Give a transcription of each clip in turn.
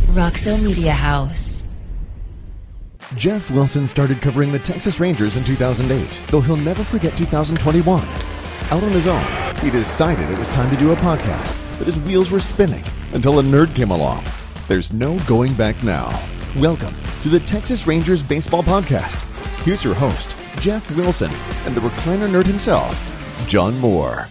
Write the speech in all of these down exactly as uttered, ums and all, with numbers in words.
Roxo Media House. Jeff Wilson started covering the Texas Rangers in two thousand eight, though he'll never forget two thousand twenty-one. Out on his own, he decided it was time to do a podcast, but his wheels were spinning until a nerd came along. There's no going back now. Welcome to the Texas Rangers Baseball Podcast. Here's your host, Jeff Wilson, and the recliner nerd himself, John Moore.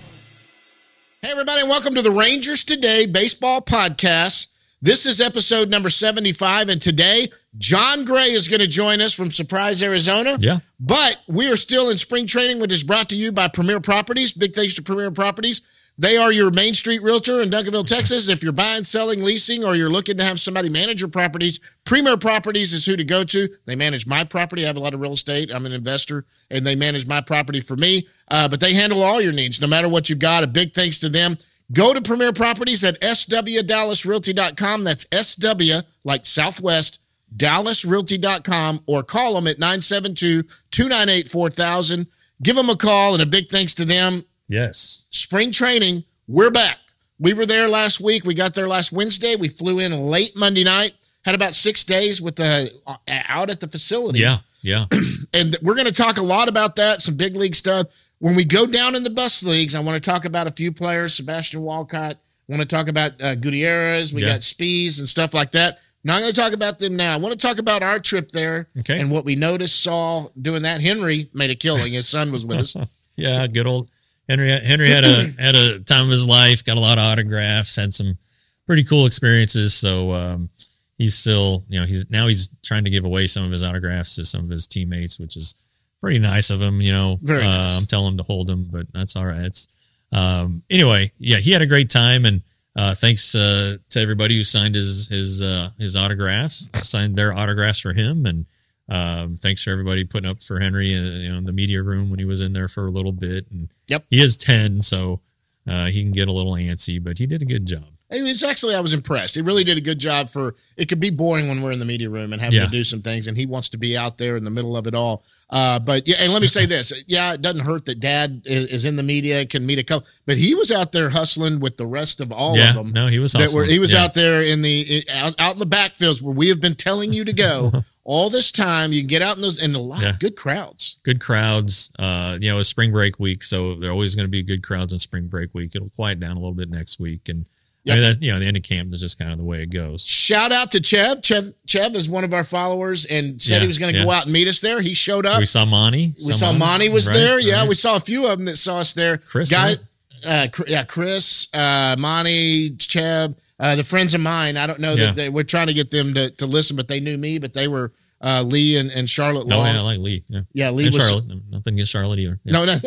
Hey, everybody, and welcome to the Rangers Today Baseball Podcast. This is episode number seventy-five, and today, John Gray is going to join us from Surprise, Arizona. Yeah. But we are still in spring training, which is brought to you by Premier Properties. Big thanks to Premier Properties. They are your Main Street realtor in Duncanville, Texas. If you're buying, selling, leasing, or you're looking to have somebody manage your properties, Premier Properties is who to go to. They manage my property. I have a lot of real estate. I'm an investor, and they manage my property for me. Uh, but they handle all your needs, no matter what you've got. A big thanks to them. Go to Premier Properties at S W Dallas Realty dot com. That's S W, like Southwest, Dallas Realty dot com, or call them at nine seven two, two nine eight, four thousand. Give them a call, and a big thanks to them. Yes. Spring training, we're back. We were there last week. We got there last Wednesday. We flew in late Monday night, had about six days with the uh, out at the facility. Yeah, yeah. And we're going to talk a lot about that, some big league stuff. When we go down in the bus leagues, I want to talk about a few players. Sebastian Walcott. I want to talk about uh, Gutierrez. We yeah. got Spies and stuff like that. Not going to talk about them now. I want to talk about our trip there okay. and what we noticed, saw doing that. Henry made a killing. His son was with us. Yeah, good old Henry. Henry had a had a time of his life. Got a lot of autographs. Had some pretty cool experiences. So um, he's still, you know, he's now he's trying to give away some of his autographs to some of his teammates, which is pretty nice of him, you know. Very nice. Uh, I'm telling him to hold him, but that's all right. It's um, anyway, yeah, he had a great time, and uh, thanks uh, to everybody who signed his his uh, his autographs, signed their autographs for him, and um, thanks for everybody putting up for Henry, uh, you know, in the media room when he was in there for a little bit. And yep, he is ten, so uh, he can get a little antsy, but he did a good job. It was actually, I was impressed. He really did a good job. For it could be boring when we're in the media room and having yeah. to do some things, and he wants to be out there in the middle of it all. Uh, but yeah, and let me say this. Yeah, it doesn't hurt that Dad is in the media, can meet a couple, but he was out there hustling with the rest of all yeah, of them. No, he was that hustling. were, he was yeah. out there in the out, out in the backfields where we have been telling you to go all this time. You can get out in those, and a lot yeah. of good crowds. Good crowds. Uh, you know, it's spring break week, so there are always going to be good crowds in spring break week. It'll quiet down a little bit next week, and Yep. I mean, that, you know, the end of camp is just kind of the way it goes. Shout out to Chev. Chev, Chev is one of our followers and said yeah, he was going to yeah. go out and meet us there. He showed up. We saw Monty. We saw Monty was right, there. Yeah, right. we saw a few of them that saw us there. Chris, Guy, right? uh, yeah, Chris, uh, Monty, Chev, uh, the friends of mine. I don't know Yeah. that they, we're trying to get them to, to listen, but they knew me, but they were uh, Lee and, and Charlotte Oh, Long. yeah, I like Lee. Yeah, Yeah, Lee and was Charlotte. Nothing against Charlotte either. Yeah. No, no.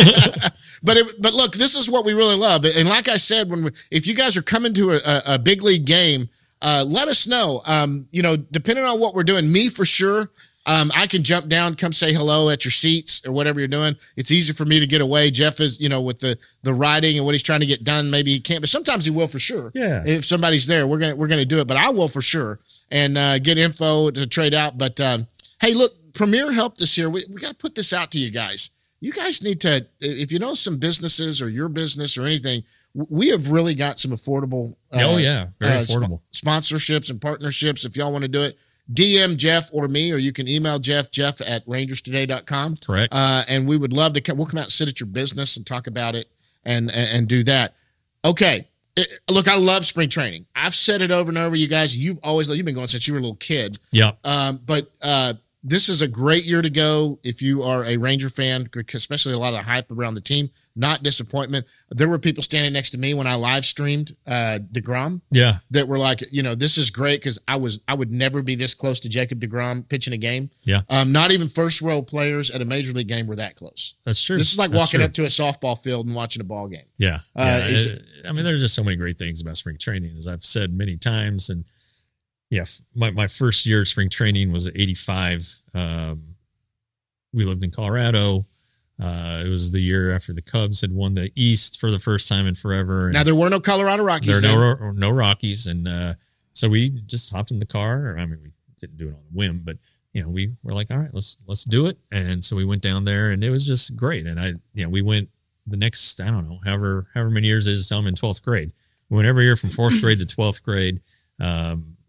but it, but look, this is what we really love. And like I said, when we, if you guys are coming to a, a big league game, uh, let us know. Um, you know, depending on what we're doing, me for sure. Um, I can jump down, come say hello at your seats or whatever you're doing. It's easy for me to get away. Jeff is, you know, with the the writing and what he's trying to get done. Maybe he can't, but sometimes he will for sure. Yeah. If somebody's there, we're gonna we're gonna do it. But I will for sure and uh, get info to trade out. But um, hey, look, Premier helped us here. We we got to put this out to you guys. You guys need to, if you know some businesses or your business or anything, we have really got some affordable. Uh, oh yeah, very uh, affordable sp- sponsorships and partnerships. If y'all want to do it, D M Jeff or me, or you can email Jeff, Jeff at rangers today dot com. Correct. Uh, and we would love to come. We'll come out and sit at your business and talk about it and, and, and do that. Okay. It, look, I love spring training. I've said it over and over. You guys, you've always, you've been going since you were a little kid. Yeah. Um, but, uh, this is a great year to go if you are a Ranger fan, especially a lot of hype around the team. Not disappointment. There were people standing next to me when I live streamed uh, DeGrom. Yeah, that were like, you know, this is great because I was I would never be this close to Jacob DeGrom pitching a game. Yeah, um, not even first row players at a major league game were that close. That's true. This is like That's walking true. up to a softball field and watching a ball game. Yeah, Uh, yeah. is it- I mean, there's just so many great things about spring training, as I've said many times. And yeah, my my first year of spring training was at eighty-five. Um, we lived in Colorado. Uh, it was the year after the Cubs had won the East for the first time in forever. And Now there were no Colorado Rockies. there then. were no, no Rockies, and uh, so we just hopped in the car. I mean, we didn't do it on a whim, but you know, we were like, all right, let's let's do it. And so we went down there, and it was just great. And I, you know, we went the next, I don't know, however however many years it is. I'm in twelfth grade. We went every year from fourth grade to twelfth grade. Um,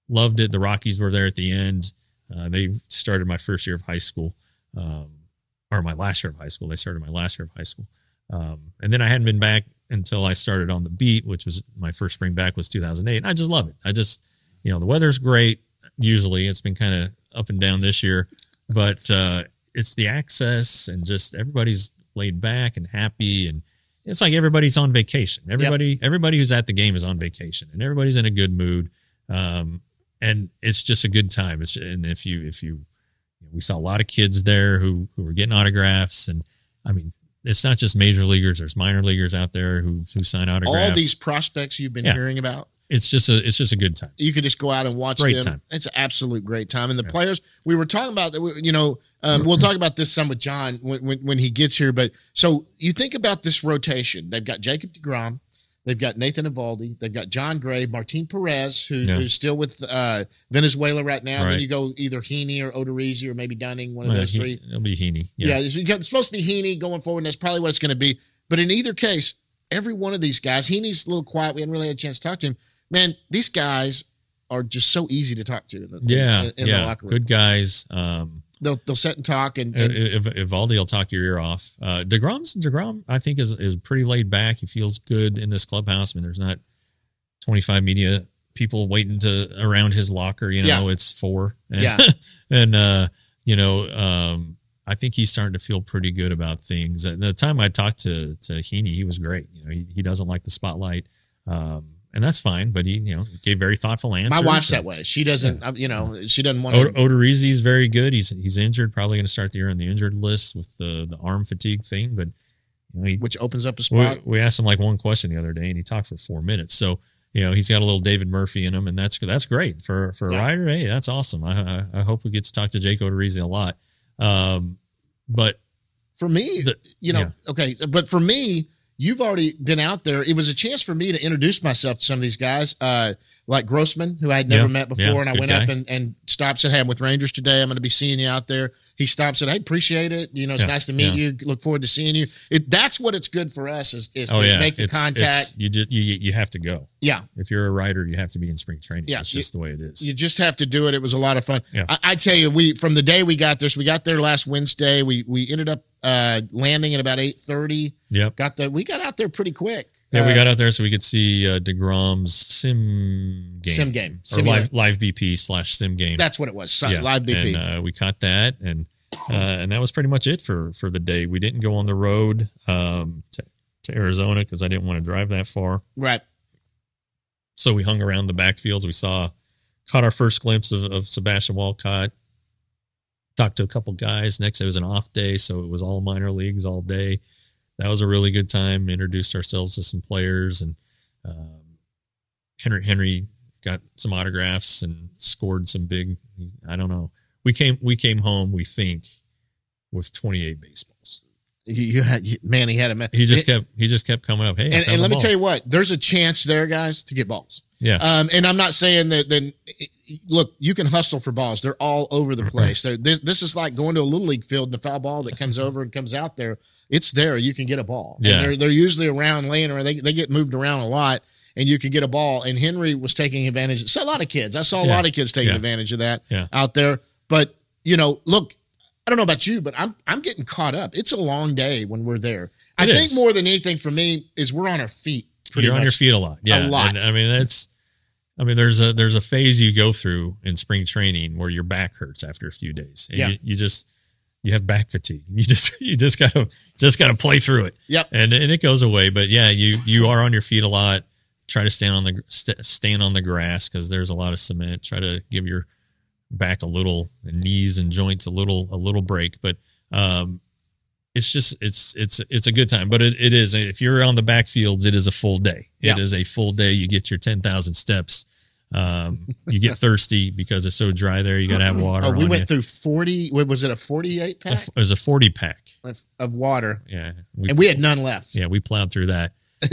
loved it. The Rockies were there at the end. Uh, they started my first year of high school, um, or my last year of high school. They started my last year of high school. Um, and then I hadn't been back until I started on the beat, which was my first spring back was two thousand eight. And I just love it. I just, you know, the weather's great. Usually it's been kind of up and down this year, but, uh, it's the access and just everybody's laid back and happy. And it's like everybody's on vacation. Everybody, yep. everybody who's at the game is on vacation and everybody's in a good mood. Um, and it's just a good time. It's, and if you, if you, you know, we saw a lot of kids there who, who were getting autographs, and I mean, it's not just major leaguers. There's minor leaguers out there who, who sign autographs. All these prospects you've been yeah. hearing about. It's just a, it's just a good time. You could just go out and watch great them. Time. It's an absolute great time. And the yeah. players, we were talking about that, you know, um, we'll talk about this some with John when, when, when he gets here. But so you think about this rotation. They've got Jacob deGrom. They've got Nathan Eovaldi. They've got John Gray, Martin Perez, who, yeah. who's still with uh, Venezuela right now. Right. Then you go either Heaney or Odorizzi or maybe Dunning, one of well, those he, three. It'll be Heaney. Yeah, yeah it's supposed to be Heaney going forward, and that's probably what it's going to be. But in either case, every one of these guys, Heaney's a little quiet. We hadn't really had a chance to talk to him. Man, these guys are just so easy to talk to. In the, yeah, in, in yeah, the locker room. Good guys. Um, they'll they'll sit and talk, and, and if Eovaldi will talk your ear off. Uh, DeGrom's DeGrom, I think, is is pretty laid back. He feels good in this clubhouse. I mean, there's not twenty-five media people waiting to around his locker. You know, yeah. it's four. And, yeah, and uh, you know, um, I think he's starting to feel pretty good about things. At the time I talked to to Heaney, he was great. You know, he he doesn't like the spotlight. Um, And that's fine, but he, you know, gave very thoughtful answers. My wife's that way. She doesn't, yeah. you know, she doesn't want to. Odorizzi is very good. He's he's injured, probably going to start the year on the injured list with the the arm fatigue thing. But you know, he, which opens up a spot. We, we asked him like one question the other day, and he talked for four minutes. So you know, he's got a little David Murphy in him, and that's that's great for for a yeah. rider. Hey, that's awesome. I, I I hope we get to talk to Jake Odorizzi a lot. Um, but for me, the, you know, yeah. okay, but for me. You've already been out there. It was a chance for me to introduce myself to some of these guys, uh, like Grossman, who I had never yeah, met before. yeah, and I went guy. up and, and stopped, said, hey, I'm with Rangers today. I'm going to be seeing you out there. He stopped, said, hey, appreciate it. You know, it's yeah, nice to meet yeah. you. Look forward to seeing you. It, that's what it's good for us is, is oh, to yeah. make the it's, contact. It's, you, just, you you have to go. Yeah. If you're a rider, you have to be in spring training. Yeah. It's just you, the way it is. You just have to do it. It was a lot of fun. Yeah. I, I tell you, we from the day we got there, so we got there last Wednesday. We we ended up uh, landing at about eight thirty. Yep. Got the, we got out there pretty quick. Yeah, uh, we got out there so we could see uh, DeGrom's sim game. Sim game. Or live, live B P slash sim game. That's what it was. So, yeah. Live B P. And uh, we caught that, and uh, and that was pretty much it for, for the day. We didn't go on the road um, to, to Arizona because I didn't want to drive that far. Right. So we hung around the backfields. We saw, caught our first glimpse of, of Sebastian Walcott. Talked to a couple guys. Next, it was an off day, so it was all minor leagues all day. That was a really good time. Introduced ourselves to some players, and um, Henry Henry got some autographs and scored some big. I don't know. We came we came home. We think with twenty-eight baseballs. You, you had man. He had a he just it, kept he just kept coming up. Hey, and, and let me tell you what. There's a chance there, guys, to get balls. Yeah. Um, and I'm not saying that. Then look, you can hustle for balls. They're all over the place. They're, this this is like going to a little league field and the foul ball that comes over and comes out there. It's there. You can get a ball. Yeah. And they're they're usually around laying around. They they get moved around a lot, and you can get a ball. And Henry was taking advantage. So a lot of kids. I saw a yeah. lot of kids taking yeah. advantage of that yeah. out there. But you know, look. I don't know about you, but I'm I'm getting caught up. It's a long day when we're there. It I is. think more than anything for me is we're on our feet. Pretty You're much. on your feet a lot. Yeah. A lot. And, I mean, that's, I mean, there's a, there's a phase you go through in spring training where your back hurts after a few days. And yeah. you, you just, you have back fatigue. You just, you just gotta, just gotta play through it. Yep. And, and it goes away. But yeah, you, you are on your feet a lot. Try to stand on the, st- stand on the grass because there's a lot of cement. Try to give your back a little, knees and joints a little, a little break. But, um, it's just, it's, it's, it's a good time, but it, it is, if you're on the backfields, it is a full day. It yeah. is a full day. You get your ten thousand steps. Um, you get thirsty because it's so dry there. You got to have water. Oh, we on went you. through forty. What was it? A forty-eight pack? It was a forty pack of, of water. Yeah. We, and we had none left. Yeah. We plowed through that.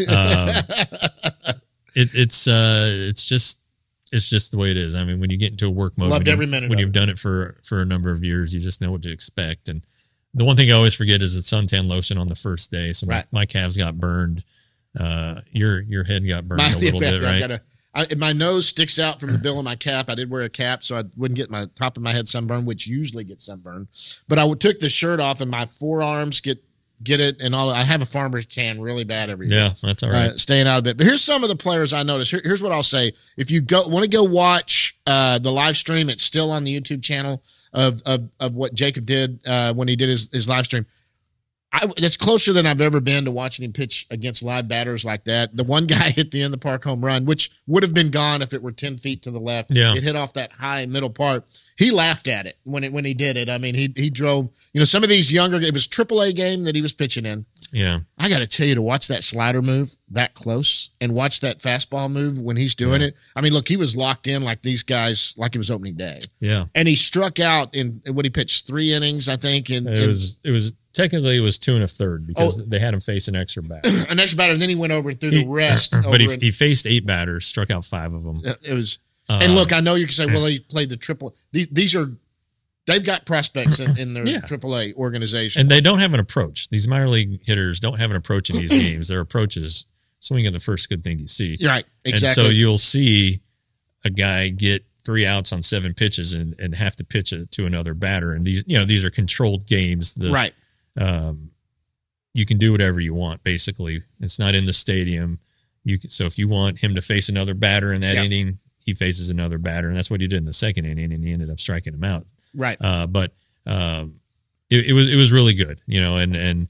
Um, it, it's, uh, it's just, it's just the way it is. I mean, when you get into a work mode, Loved when, every you, minute when of you've it. done it for, for a number of years, you just know what to expect. And the one thing I always forget is the suntan lotion on the first day. So right. my, my calves got burned. Uh, your, your head got burned My, a little yeah, bit, I right? Got a, I, my nose sticks out from the bill of my cap. I did wear a cap so I wouldn't get my top of my head sunburned, which usually gets sunburned. But I took the shirt off and my forearms get get it and all. I have a farmer's tan really bad every year. Yeah, that's all right. Uh, staying out of it. But here's some of the players I noticed. Here, here's what I'll say. If you go want to go watch uh, the live stream, it's still on the YouTube channel of of of what Jacob did uh, when he did his, his live stream. I, that's closer than I've ever been to watching him pitch against live batters like that. The one guy hit the end of the park home run, which would have been gone if it were ten feet to the left. Yeah. It hit off that high middle part. He laughed at it when it when he did it. I mean, he he drove, you know, some of these younger, it was triple A game that he was pitching in. Yeah. I got to tell you, to watch that slider move that close and watch that fastball move when he's doing Yeah. it. I mean, look, he was locked in like these guys, like it was opening day. Yeah. And he struck out in what he pitched three innings, I think. And It was, it was, technically it was two and a third because Oh. they had him face an extra batter. an extra batter, and then he went over and threw the He- rest. But he, over in- he faced eight batters, struck out five of them. It was, Uh, and look, I know you can say, well, he played the triple. These these are, they've got prospects in, in their Yeah. triple A organization. And they don't have an approach. These minor league hitters don't have an approach in these games. Their approach is swing at the first good thing you see. You're right, exactly. And so you'll see a guy get three outs on seven pitches and, and have to pitch it to another batter. And these, you know, these are controlled games. The, right. Um, you can do whatever you want, basically. It's not in the stadium. You can, so if you want him to face another batter in that Yeah. inning, he faces another batter. And that's what he did in the second inning, and he ended up striking him out. Right. Uh, but um, it, it was it was really good, you know, and and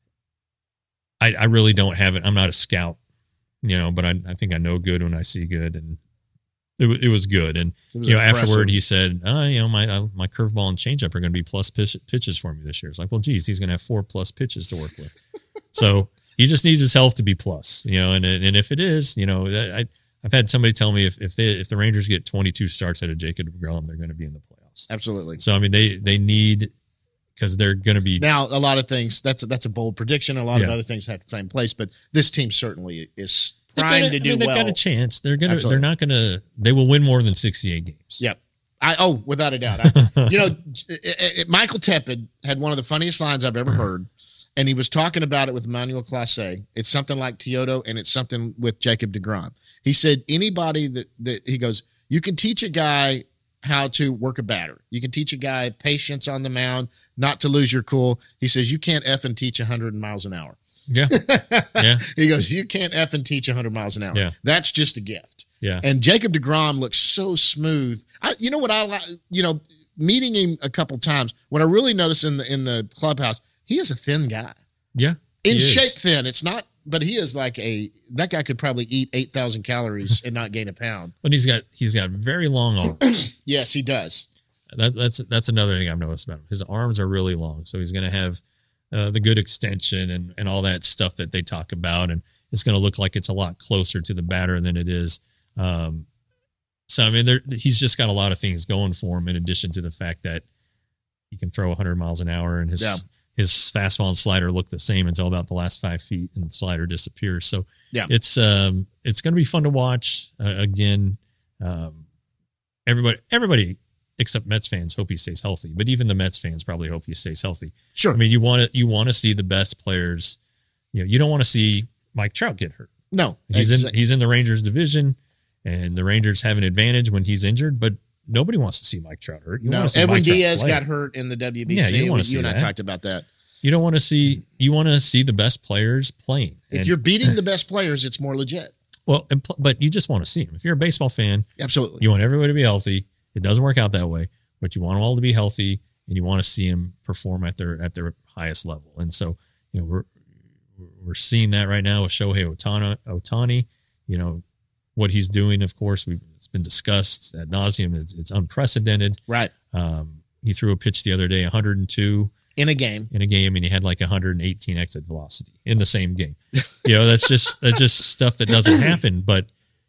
I, I really don't have it. I'm not a scout, you know, but I, I think I know good when I see good, and it, wa- it was good. And It was you know, impressive. afterward he said, oh, you know, my uh, my curveball and changeup are going to be plus pitch, pitches for me this year. It's like, well, geez, he's going to have four plus pitches to work with. So he just needs his health to be plus, you know, and and if it is, you know, I I've had somebody tell me if if they if the Rangers get twenty-two starts out of Jacob deGrom, they're going to be in the playoffs. Absolutely. So I mean, they they need, because they're going to be Now, a lot of things, that's a, that's a bold prediction. A lot of Yeah. other things have the same place, but this team certainly is they've primed got a- to I do mean, they've well. got a chance. They're gonna Absolutely. they're not gonna they will win more than sixty-eight games. Yep. I oh, without a doubt. I, you know, it, it, Michael Tepid had one of the funniest lines I've ever heard, and he was talking about it with Emmanuel Clase. It's something like Teodo, and it's something with Jacob deGrom. He said anybody that that he goes, you can teach a guy how to work a batter. You can teach a guy patience on the mound, not to lose your cool. He says you can't F and teach one hundred miles an hour. Yeah. Yeah. He goes, you can't F and teach one hundred miles an hour. Yeah. That's just a gift. Yeah. And Jacob deGrom looks so smooth. I, you know what I like? You know, meeting him a couple times, what I really noticed in the in the clubhouse, he is a thin guy, Yeah. in he is. shape thin. It's not, but he is like a that guy could probably eat eight thousand calories and not gain a pound. But he's got he's got very long arms. Yes, he does. That, that's that's another thing I've noticed about him. His arms are really long, so he's going to have uh, the good extension and and all that stuff that they talk about, and it's going to look like it's a lot closer to the batter than it is. Um, so I mean, there, he's just got a lot of things going for him, in addition to the fact that he can throw one hundred miles an hour, and his Yeah. his fastball and slider look the same until about the last five feet, and the slider disappears. So Yeah. it's um it's going to be fun to watch. Uh, again, um, everybody everybody except Mets fans hope he stays healthy, but even the Mets fans probably hope he stays healthy. Sure. I mean, you want to you want to see the best players. You know, you don't want to see Mike Trout get hurt. no, He's exa- in he's in the Rangers division, and the Rangers have an advantage when he's injured. But nobody wants to see Mike Trout hurt. You no. want to see Edwin Mike Trout Diaz play. got hurt in the W B C. Yeah, you wanna you see and I that. talked about that. You don't want to see you want to see the best players playing. If And- you're beating the best players, it's more legit. well, and, pl- but you just want to see them. If you're a baseball fan, Absolutely. you want everybody to be healthy. It doesn't work out that way, but you want them all to be healthy, and you want to see them perform at their at their highest level. And so, you know, we're we're seeing that right now with Shohei Ohtani. Ohtani, you know, what he's doing. Of course, we've it's been discussed ad nauseum. It's, it's unprecedented. Right. Um, he threw a pitch the other day, one hundred two In a game. in a game, and he had like one hundred eighteen exit velocity in the same game. You know, that's just that's just stuff that doesn't happen. But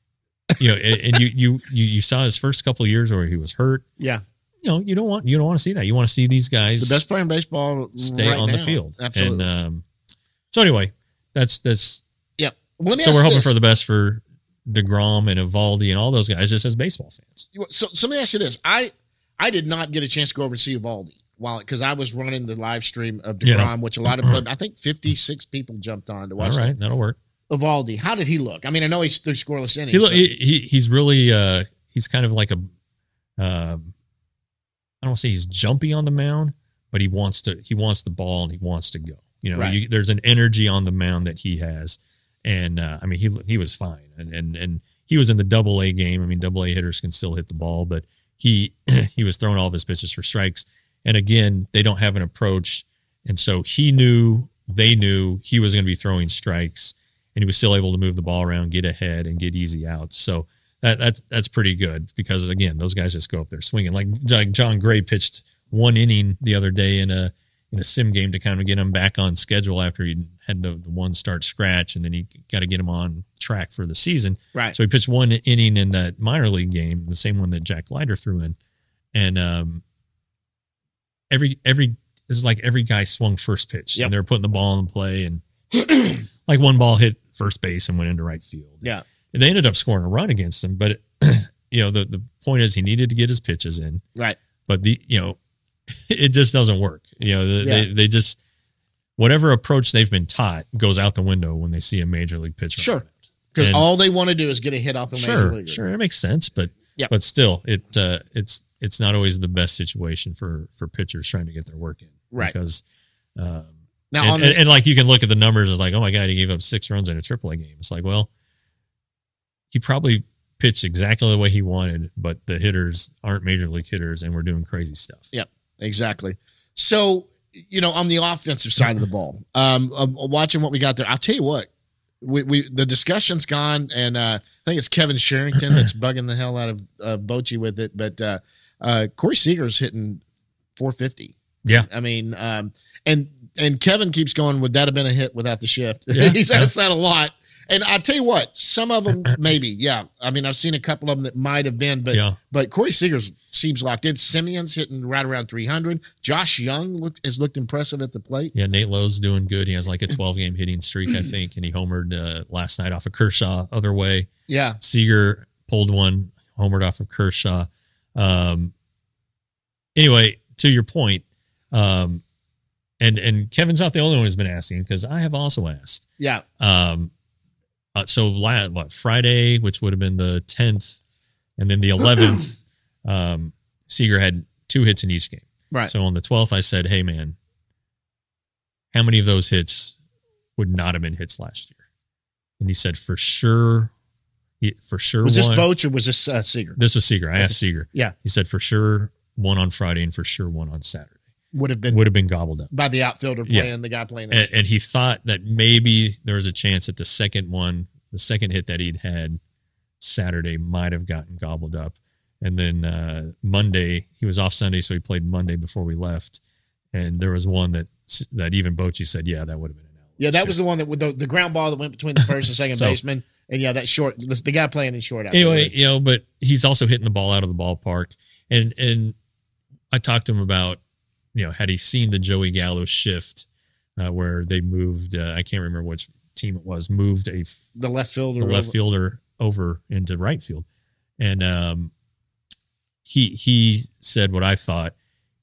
you know, and, and you you you you saw his first couple of years where he was hurt. Yeah. You know, you don't want you don't want to see that. You want to see these guys The best player in baseball stay right on the now. field. Absolutely. And um, so anyway, that's that's Yep. Let me so ask we're hoping this. for the best for DeGrom and Evaldi and all those guys, just as baseball fans. So, so let me ask you this. I I did not get a chance to go over and see Evaldi while because I was running the live stream of DeGrom, Yeah. which a lot of I think fifty-six people jumped on to All watch. right, that. that'll work. Eovaldi, how did he look? I mean, I know he's through scoreless innings. He, look, he, he he's really uh, he's kind of like a um, I don't want to say he's jumpy on the mound, but he wants to he wants the ball and he wants to go. You know, Right. you, there's an energy on the mound that he has, and uh, I mean he he was fine, and and and he was in the Double A game. I mean, Double A hitters can still hit the ball, but he he was throwing all of his pitches for strikes. And again, they don't have an approach, and so he knew they knew he was going to be throwing strikes, and he was still able to move the ball around, get ahead, and get easy outs. So that, that's that's pretty good because again, those guys just go up there swinging. Like, like John Gray pitched one inning the other day in a in a sim game to kind of get him back on schedule after he had the, the one start scratch, and then he got to get him on track for the season. Right. So he pitched one inning in that minor league game, the same one that Jack Leiter threw in, and um, every every this is like every guy swung first pitch, Yep. and they're putting the ball in play, and like one ball hit first base and went into right field. Yeah. And they ended up scoring a run against him, but you know the the point is he needed to get his pitches in, Right. but the you know it just doesn't work. You know the, Yeah. they they just whatever approach they've been taught goes out the window when they see a major league pitcher. Sure. Because And- all they want to do is get a hit off the major Sure, leaguer. sure, it makes sense, but Yeah. but still, it uh, it's it's not always the best situation for for pitchers trying to get their work in, Right. Because um, Now, and, on and, the, and like you can look at the numbers, it's like, oh my god, he gave up six runs in a triple A game. It's like, well, he probably pitched exactly the way he wanted, but the hitters aren't major league hitters, and we're doing crazy stuff. Yep, exactly. So, you know, on the offensive side of the ball, um, uh, watching what we got there, I'll tell you what, we, we the discussion's gone, and uh, I think it's Kevin Sherrington that's bugging the hell out of uh, Bochy with it, but uh, uh, Corey Seager's hitting four fifty. Yeah, I mean, um, and and Kevin keeps going, would that have been a hit without the shift? Yeah, He's yeah. asked that a lot. And I tell you what, some of them maybe, yeah. I mean, I've seen a couple of them that might have been, but Yeah. but Corey Seager's seems locked in. Simeon's hitting right around three hundred. Josh Young looked has looked impressive at the plate. yeah. Nate Lowe's doing good. He has like a twelve game hitting streak, I think, and he homered uh, last night off of Kershaw. Other way, Yeah, Seager pulled one, homered off of Kershaw. Um, anyway, to your point, um, and and Kevin's not the only one who's been asking because I have also asked. yeah, Um, uh, so la- what Friday, which would have been the tenth, and then the eleventh, um, Seager had two hits in each game. right. So on the twelfth, I said, "Hey man, how many of those hits would not have been hits last year?" And he said, "For sure, he- for sure." was this one- Boch or was this uh, Seager? This was Seager. I asked Seager. Yeah, He said for sure one on Friday and for sure one on Saturday would have been would have been gobbled up. by the outfielder Yeah. playing the guy playing. And, and he thought that maybe there was a chance that the second one, the second hit that he'd had Saturday might have gotten gobbled up. And then uh, Monday, he was off Sunday, so he played Monday before we left. And there was one that that even Bochy said, yeah, that would have been an out. yeah, that was the one that with the, the ground ball that went between the first and second So- baseman. And yeah, that short, the, the guy playing in short. out Anyway, there. you know, but he's also hitting the ball out of the ballpark. And and I talked to him about, you know, had he seen the Joey Gallo shift uh, where they moved, uh, I can't remember which team it was, moved a the left fielder, the left over- fielder over into right field. And um, he he said what I thought.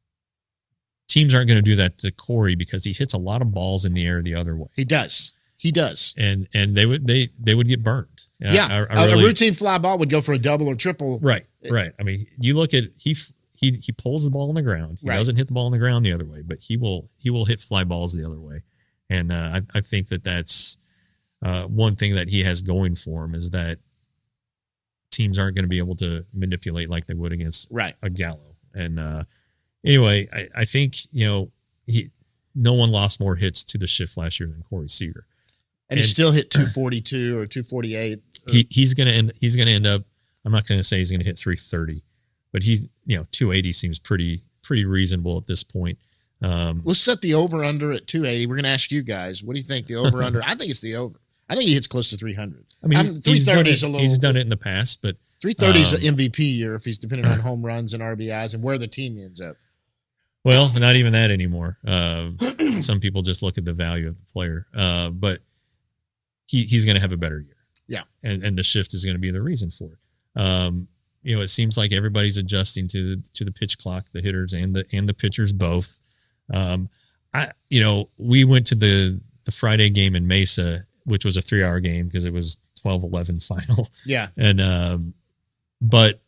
Teams aren't going to do that to Corey because he hits a lot of balls in the air the other way. He does. He does. And and they would they they would get burned. And Yeah, I- I- I a- really- a routine fly ball would go for a double or triple. Right, right. I mean, you look at he he he pulls the ball on the ground. He Right. doesn't hit the ball on the ground the other way, but he will he will hit fly balls the other way. And uh, I I think that that's uh, one thing that he has going for him is that teams aren't going to be able to manipulate like they would against Right. a Gallo. And uh, anyway, I, I think you know he no one lost more hits to the shift last year than Corey Seager. And, he And- still hit two forty-two or two forty-eight. He he's gonna end he's gonna end up. I'm not gonna say he's gonna hit three thirty, but he you know two eighty seems pretty pretty reasonable at this point. Um, Let's set the over under at two eighty. We're going to ask you guys, what do you think the over under? I think it's the over. I think he hits close to three hundred. I mean, I'm- he's done, thirty it, is a little. he's done it in the past, but three thirty is um, an M V P year if he's depending on home runs and R B Is and where the team ends up. well, not even that anymore. Uh, some people just look at the value of the player, uh, but he he's going to have a better year. Yeah. and and the shift is going to be the reason for it. Um, you know, it seems like everybody's adjusting to the, to the pitch clock, the hitters and the and the pitchers both. Um, I you know we went to the the Friday game in Mesa. which was a three hour game because it was twelve eleven final. Yeah. And, um, but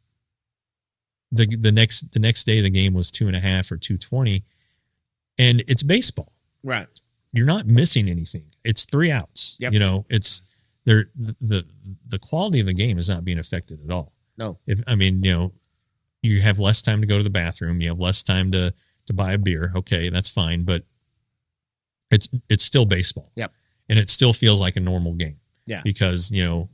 the, the next, the next day the game was two and a half or two twenty, and it's baseball. Right. You're not missing anything. It's three outs. Yep. You know, it's there. The, the, the quality of the game is not being affected at all. No. If, I mean, you know, you have less time to go to the bathroom. You have less time to, to buy a beer. Okay. That's fine. But it's, it's still baseball. Yep. And it still feels like a normal game. Yeah. Because, you know,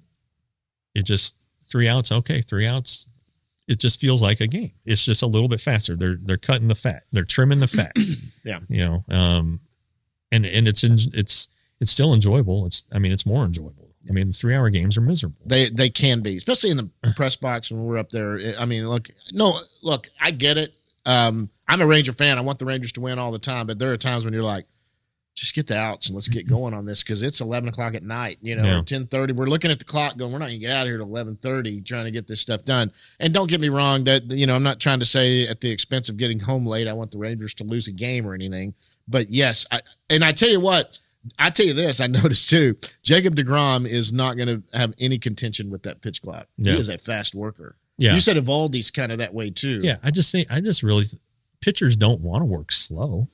it just three outs. Okay. Three outs. It just feels like a game. It's just a little bit faster. They're, they're cutting the fat. They're trimming the fat. Yeah. You know, um, and, and it's, in, it's, it's still enjoyable. It's, I mean, it's more enjoyable. I mean, three hour games are miserable. They they can be, especially in the press box when we're up there. I mean, look, no, look, I get it. Um, I'm a Ranger fan. I want the Rangers to win all the time, but there are times when you're like, just get the outs and let's get going on this because it's eleven o'clock at night, you know, Yeah. or ten thirty. We're looking at the clock going, we're not going to get out of here at eleven thirty trying to get this stuff done. And don't get me wrong, that, you know, I'm not trying to say at the expense of getting home late, I want the Rangers to lose a game or anything. But yes, I, and I tell you what, I tell you this, I noticed too, Jacob deGrom is not going to have any contention with that pitch clock. Yeah. He is a fast worker. Yeah. You said Evaldi's kind of that way too. Yeah. I just think, I just really, pitchers don't want to work slow.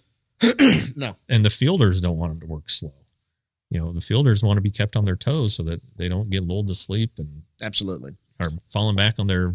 No. And the fielders don't want them to work slow. You know, the fielders want to be kept on their toes so that they don't get lulled to sleep and Absolutely. are falling back on their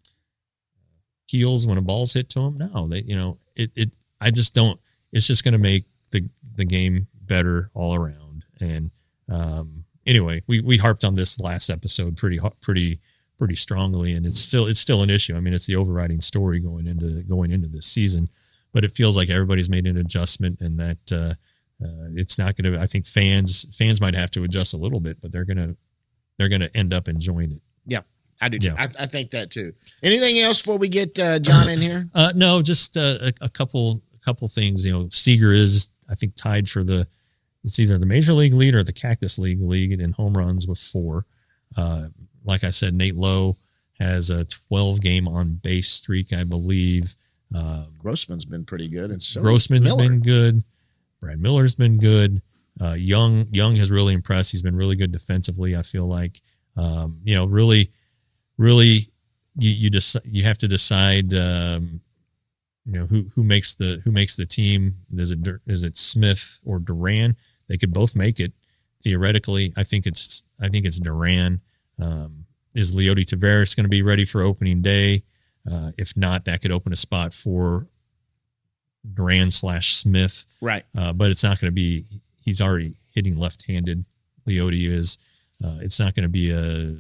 heels when a ball's hit to them. No, they, you know, it, it, I just don't, it's just going to make the, the game better all around. And, um, anyway, we, we harped on this last episode pretty, pretty, pretty strongly, and it's still, it's still an issue. I mean, it's the overriding story going into, going into this season, but it feels like everybody's made an adjustment and that, uh, uh, it's not going to, I think fans, fans might have to adjust a little bit, but they're going to, they're going to end up enjoying it. Yeah, I do. Yeah. I, I think that too. Anything else before we get uh, John in here? Uh, no, just uh, a, a couple, a couple things. You know, Seager is, I think, tied for the, it's either the Major League lead or the Cactus League league in home runs with four. Uh, like I said, Nate Lowe has a twelve game on base streak, I believe. Um, Grossman's been pretty good, and so Grossman's Miller. been good. Brad Miller's been good. Uh, Young, Young has really impressed. He's been really good defensively. I feel like, um, you know, really, really, you you just you have to decide, um, you know, who who makes the who makes the team. Is it is it Smith or Duran? They could both make it theoretically. I think it's I think it's Duran. Um, is Leody Taveras going to be ready for opening day? Uh, if not, that could open a spot for Duran slash Smith. Right. Uh, but it's not going to be, he's already hitting left-handed. Leody is, uh, it's not going to be a,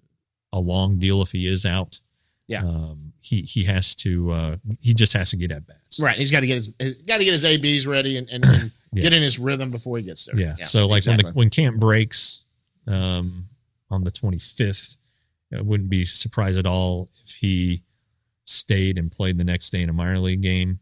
a long deal if he is out. Yeah. Um, he, he has to, uh, he just has to get at bats. Right. He's got to get his, he's got to get his A Bs ready and, and, and Yeah. get in his rhythm before he gets there. Yeah. so like exactly. when the, when camp breaks, um, on the twenty-fifth, I wouldn't be surprised at all if he stayed and played the next day in a minor league game.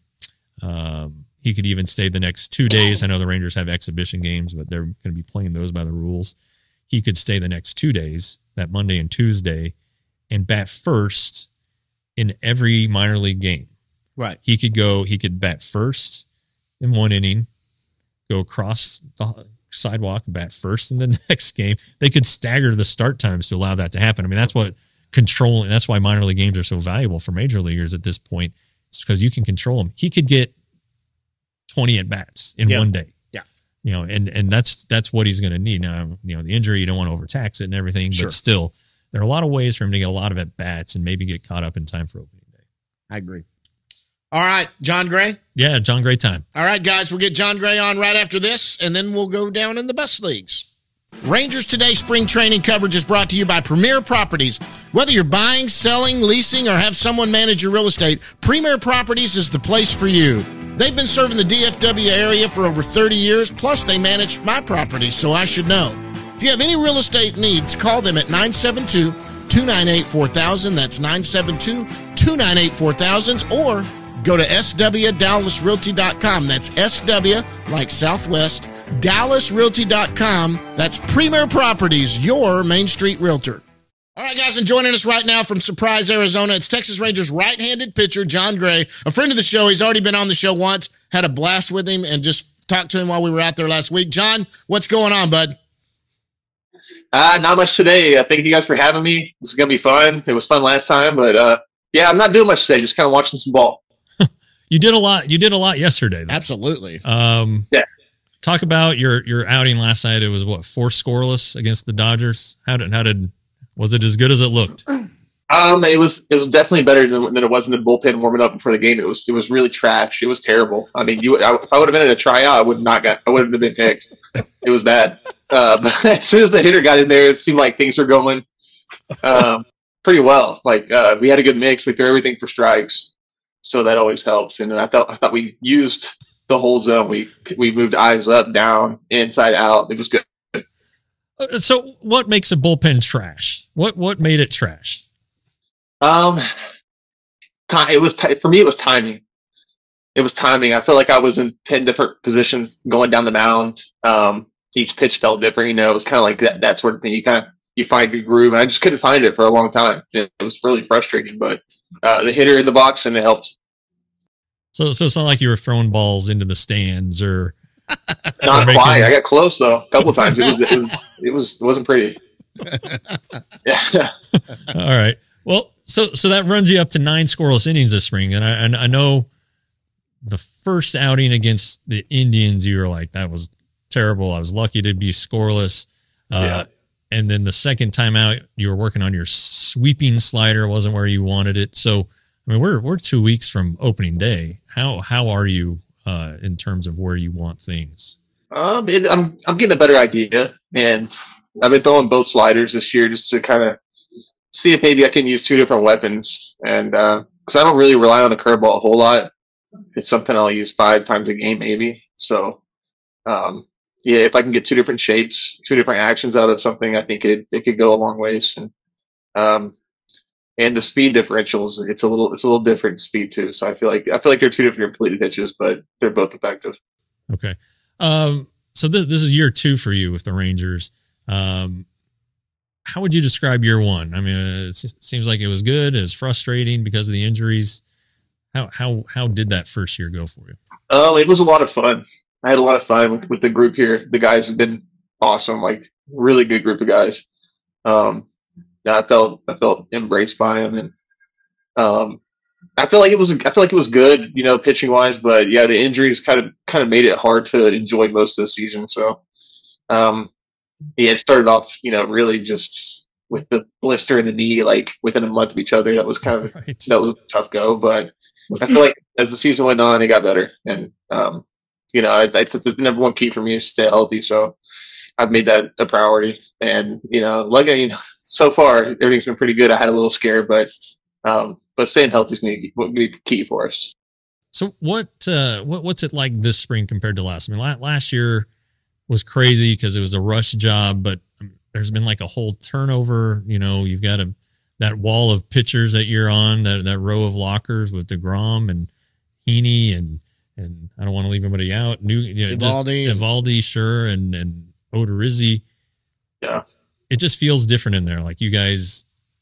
Um, he could even stay the next two days. I know the Rangers have exhibition games, but they're going to be playing those by the rules. He could stay the next two days, that Monday and Tuesday, and bat first in every minor league game. Right. He could go, he could bat first in one inning, go across the sidewalk, bat first in the next game. They could stagger the start times to allow that to happen. I mean, that's what controlling, that's why minor league games are so valuable for major leaguers at this point. It's because you can control them. He could get twenty at bats in Yeah. one day. Yeah. You know, and, and that's, that's what he's going to need. Now, you know, the injury, you don't want to overtax it and everything, Sure. but still there are a lot of ways for him to get a lot of at bats and maybe get caught up in time for opening day. I agree. All right. John Gray. Yeah. John, great time. All right, guys, we'll get John Gray on right after this, and then we'll go down in the bus leagues. Rangers Today spring training coverage is brought to you by Premier Properties. Whether you're buying, selling, leasing, or have someone manage your real estate, Premier Properties is the place for you. They've been serving the D F W area for over thirty years, plus they manage my property, so I should know. If you have any real estate needs, call them at nine seven two, two nine eight, four thousand. That's nine seven two, two nine eight, four thousand, or go to S W Dallas Realty dot com. That's S W, like Southwest, Dallas Realty dot com. That's Premier Properties, your Main Street realtor. All right, guys, and joining us right now from Surprise, Arizona, it's Texas Rangers right-handed pitcher John Gray, a friend of the show. He's already been on the show once, had a blast with him, and just talked to him while we were out there last week. John, what's going on, bud? Uh, not much today. Uh, thank you guys for having me. This is gonna be fun. It was fun last time, but uh, yeah, I'm not doing much today. Just kind of watching some ball. You did a lot. You did a lot yesterday, though. Absolutely. Um, yeah. Talk about your your outing last night. It was what, four scoreless against the Dodgers. How did how did was it as good as it looked? Um, it was it was definitely better than, than it was in the bullpen warming up before the game. It was it was really trash. It was terrible. I mean, you I, if I would have been in a tryout, I would not got I wouldn't have been picked. It was bad. Uh, but as soon as the hitter got in there, it seemed like things were going um, pretty well. Like uh, we had a good mix. We threw everything for strikes, so that always helps. And I thought I thought we used the whole zone. We we moved eyes up, down, inside, out. It was good. So, what makes a bullpen trash? What what made it trash? Um, it was t- for me. It was timing. It was timing. I felt like I was in ten different positions going down the mound. Um, each pitch felt different. You know, it was kind of like that that sort of thing. You kind of you find your groove, and I just couldn't find it for a long time. It, it was really frustrating. But uh, the hitter in the box, and it helped. So, so it's not like you were throwing balls into the stands, or not or making... quite. I got close though a couple of times. It was, it was it was it wasn't pretty. Yeah. All right. Well, so so that runs you up to nine scoreless innings this spring, and I and I know the first outing against the Indians, you were like, that was terrible. I was lucky to be scoreless. Uh, yeah. And then the second time out, you were working on your sweeping slider, wasn't where you wanted it. So, I mean, we're we're two weeks from opening day. How how are you uh, in terms of where you want things? Um, it, I'm I'm getting a better idea, and I've been throwing both sliders this year just to kind of see if maybe I can use two different weapons, and because uh, I don't really rely on the curveball a whole lot. It's something I'll use five times a game, maybe. So, um, yeah, if I can get two different shapes, two different actions out of something, I think it it could go a long ways. And um, and the speed differentials, it's a little it's a little different speed too. So I feel like I feel like they're two different completely pitches, but they're both effective. Okay. Um, so this this is year two for you with the Rangers. Um, how would you describe year one? I mean, it seems like it was good. It was frustrating because of the injuries. How how how did that first year go for you? Oh, it was a lot of fun. I had a lot of fun with, with the group here. The guys have been awesome, like really good group of guys. Um, I felt I felt embraced by them, and um, I feel like it was I feel like it was good, you know, pitching wise. But yeah, the injuries kind of kind of made it hard to enjoy most of the season. So, um, yeah, it started off, you know, really just with the blister in the knee, like within a month of each other. That was kind of right. That was a tough go, but I feel like as the season went on, it got better. And um, you know, I, I, the number one key for me is to stay healthy. So I've made that a priority. And you know, like you know, so far everything's been pretty good. I had a little scare, but um, but staying healthy is going to be key for us. So what uh, what what's it like this spring compared to last? I mean, last year was crazy because it was a rush job, but there's been like a whole turnover. You know, you've got a that wall of pitchers that you're on, that that row of lockers with DeGrom and Heaney and and I don't want to leave anybody out. New you know, Evaldi, Evaldi, sure, and and Odorizzi. Yeah, it just feels different in there. Like you guys,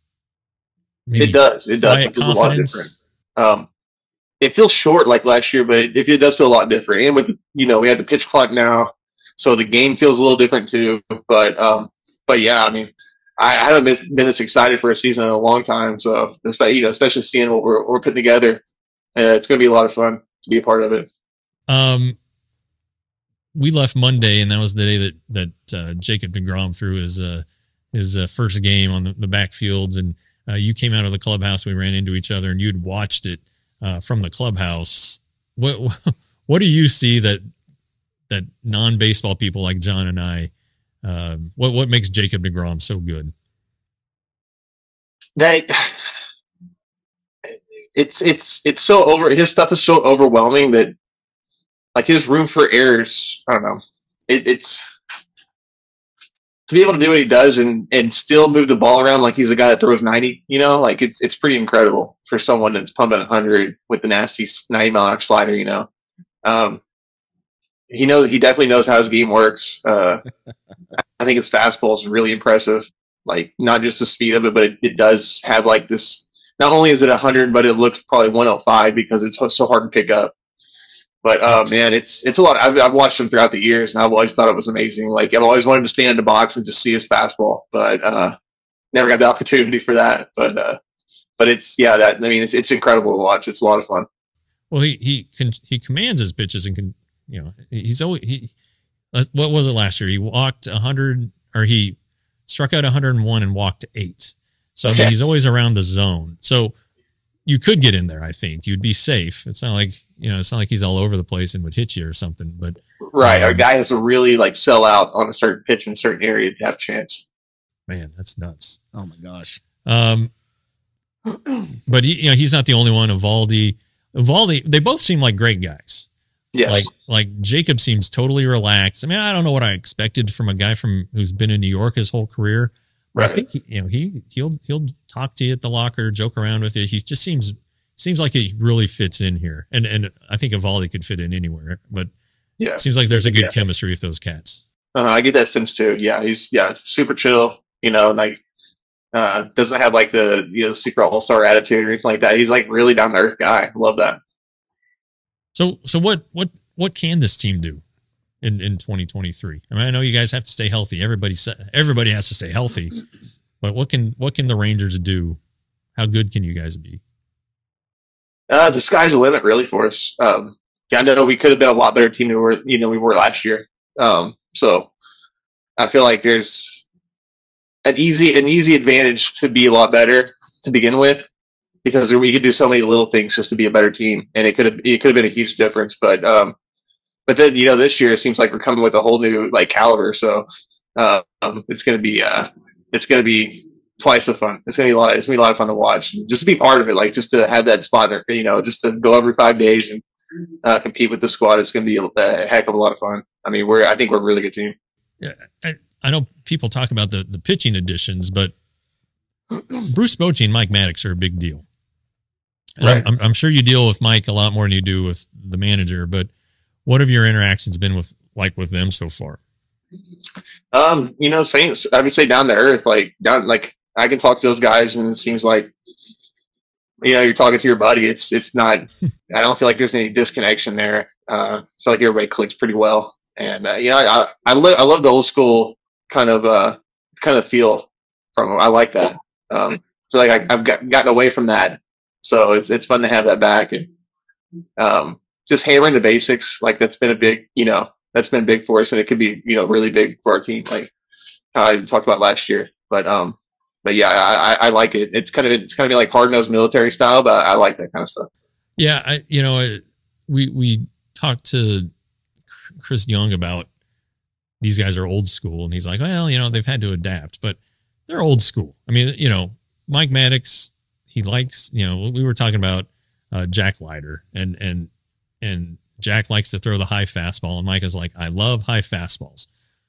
it does. It does. It feels a lot different. Um, it feels short like last year, but it, it does feel a lot different. And with you know, we have the pitch clock now, so the game feels a little different too. But um, but yeah, I mean. I haven't been, been this excited for a season in a long time, so you know, especially seeing what we're, we're putting together, uh, it's going to be a lot of fun to be a part of it. Um, we left Monday, and that was the day that that uh, Jacob deGrom threw his uh, his uh, first game on the, the backfields, and uh, you came out of the clubhouse. We ran into each other, and you'd watched it uh, from the clubhouse. What what do you see that that non baseball people like John and I? Um, what what makes Jacob deGrom so good? That it's it's it's so over. His stuff is so overwhelming that like his room for errors. I don't know. It, it's to be able to do what he does and and still move the ball around like he's a guy that throws ninety. You know, like it's it's pretty incredible for someone that's pumping one hundred with the nasty ninety mile an hour slider. You know. Um, He knows. He definitely knows how his game works. Uh, I think his fastball is really impressive. Like not just the speed of it, but it, it does have like this. Not only is it one hundred, but it looks probably one oh five because it's so hard to pick up. But uh, Yes. man, it's it's a lot. I've, I've watched him throughout the years, and I've always thought it was amazing. Like I've always wanted to stand in the box and just see his fastball, but uh, never got the opportunity for that. But uh, but it's yeah, that I mean, it's it's incredible to watch. It's a lot of fun. Well, he he can he commands his pitches and can you know he's always he. Uh, what was it last year? He walked a hundred or he struck out one hundred one and walked eight. So I mean, Yeah. he's always around the zone. So you could get in there. I think you'd be safe. It's not like you know it's not like he's all over the place and would hit you or something. But Right, Um, our guy has to really like sell out on a certain pitch in a certain area to have a chance. man, that's nuts. Oh my gosh. Um, but he, you know he's not the only one. Evaldi, Evaldi, they both seem like great guys. Yes. Like like Jacob seems totally relaxed. I mean, I don't know what I expected from a guy from who's been in New York his whole career. But I Right. think he, you know he he'll he'll talk to you at the locker, joke around with you. He just seems seems like he really fits in here. And and I think Evaldi could fit in anywhere. But Yeah. it seems like there's a good Yeah. chemistry with those cats. Uh, I get that sense too. Yeah, he's yeah super chill. You know, like uh, doesn't have like the you know super all star attitude or anything like that. He's like really down to earth guy. Love that. So so what what what can this team do in in twenty twenty-three? I mean, I know you guys have to stay healthy. Everybody sa- everybody has to stay healthy. But what can what can the Rangers do? How good can you guys be? Uh, the sky's the limit really for us. Um, yeah, I know we could have been a lot better team than we were you know we were last year. Um, so I feel like there's an easy an easy advantage to be a lot better to begin with because we could do so many little things just to be a better team, and it could have it could have been a huge difference. But um, but then you know this year it seems like we're coming with a whole new like caliber, so uh, um, it's gonna be uh, it's gonna be twice the fun. It's gonna be a lot. It's gonna be a lot of fun to watch, just to be part of it, like just to have that spot, there, you know, just to go every five days and uh, compete with the squad. It's gonna be a, a heck of a lot of fun. I mean, we're I think we're a really good team. Yeah, I, I know people talk about the the pitching additions, but Bruce Bochy and Mike Maddox are a big deal. And Right. I'm, I'm, I'm sure you deal with Mike a lot more than you do with the manager. But what have your interactions been with like with them so far? Um, you know, same. I would say down to earth, like down, like I can talk to those guys, and it seems like, you know, you're talking to your buddy. It's it's not. I don't feel like there's any disconnection there. Uh, I feel like everybody clicks pretty well, and uh, you know, I I, lo- I love the old school kind of uh kind of feel from them. I like that. Um, so like I, I've got, gotten away from that, so it's it's fun to have that back, and um, just hammering the basics. Like that's been a big, you know. That's been big for us, and it could be, you know, really big for our team, like how I talked about last year. But, um, but yeah, I, I, I like it. It's kind of, it's kind of like hard nosed military style, but I like that kind of stuff. Yeah, I you know I, we we talked to Chris Young about these guys are old school, and he's like, well, you know, they've had to adapt, but they're old school. I mean, you know, Mike Maddox, he likes, you know, we were talking about uh, Jack Leiter, and and and. Jack likes to throw the high fastball, and Mike is like, I love high fastballs,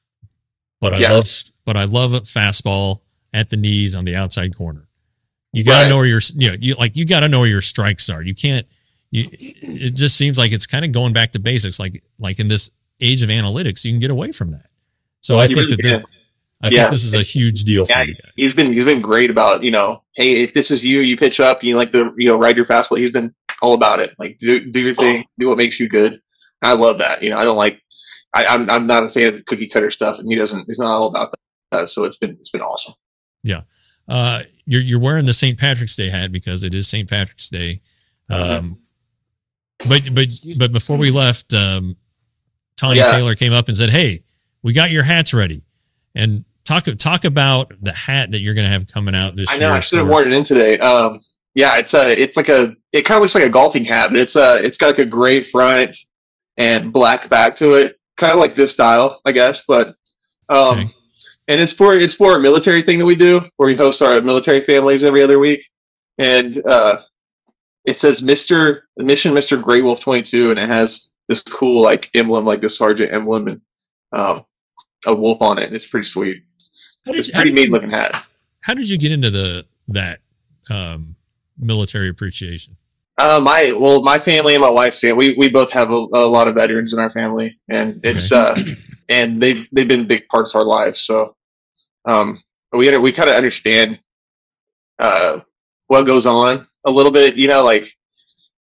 but I Yeah. love, but I love a fastball at the knees on the outside corner. You got to Right. know where your, you know, you like, you got to know where your strikes are. You can't, you, it just seems like it's kind of going back to basics. Like, like in this age of analytics, you can get away from that. So I You think really that this, can. I Yeah. think this is a huge deal for Yeah, you guys. he's been, he's been great about, you know, hey, if this is you, you pitch up, you like to, you know, ride your fastball. He's been all about it. Like, do, do your thing, do what makes you good. I love that. You know, I don't like, I, I'm, I'm not a fan of the cookie cutter stuff, and he doesn't, he's not all about that. So it's been, it's been awesome. Yeah. Uh, you're, you're wearing the Saint Patrick's Day hat because it is Saint Patrick's Day. Um, but, but, but before we left, um, Tanya Yeah. Taylor came up and said, hey, we got your hats ready. And talk, talk about the hat that you're going to have coming out this I year. know, I should have for- worn it in today. Um, yeah, it's a, it's like a, it kind of looks like a golfing hat, but it's a, it's got like a gray front and black back to it, kind of like this style, I guess. But, um, Okay. and it's for, it's for a military thing that we do where we host our military families every other week. And, uh, it says Mister Mission Mister Grey Wolf twenty-two, and it has this cool like emblem, like the sergeant emblem, and, um, a wolf on it. It's pretty sweet. How did, It's a how pretty did mean you, looking hat. how did you get into the, that, um, military appreciation? Uh, my well, my family and my wife's family, we we both have a, a lot of veterans in our family, and it's uh, and they've they've been big parts of our lives. So, um, we we kind of understand uh what goes on a little bit, you know, like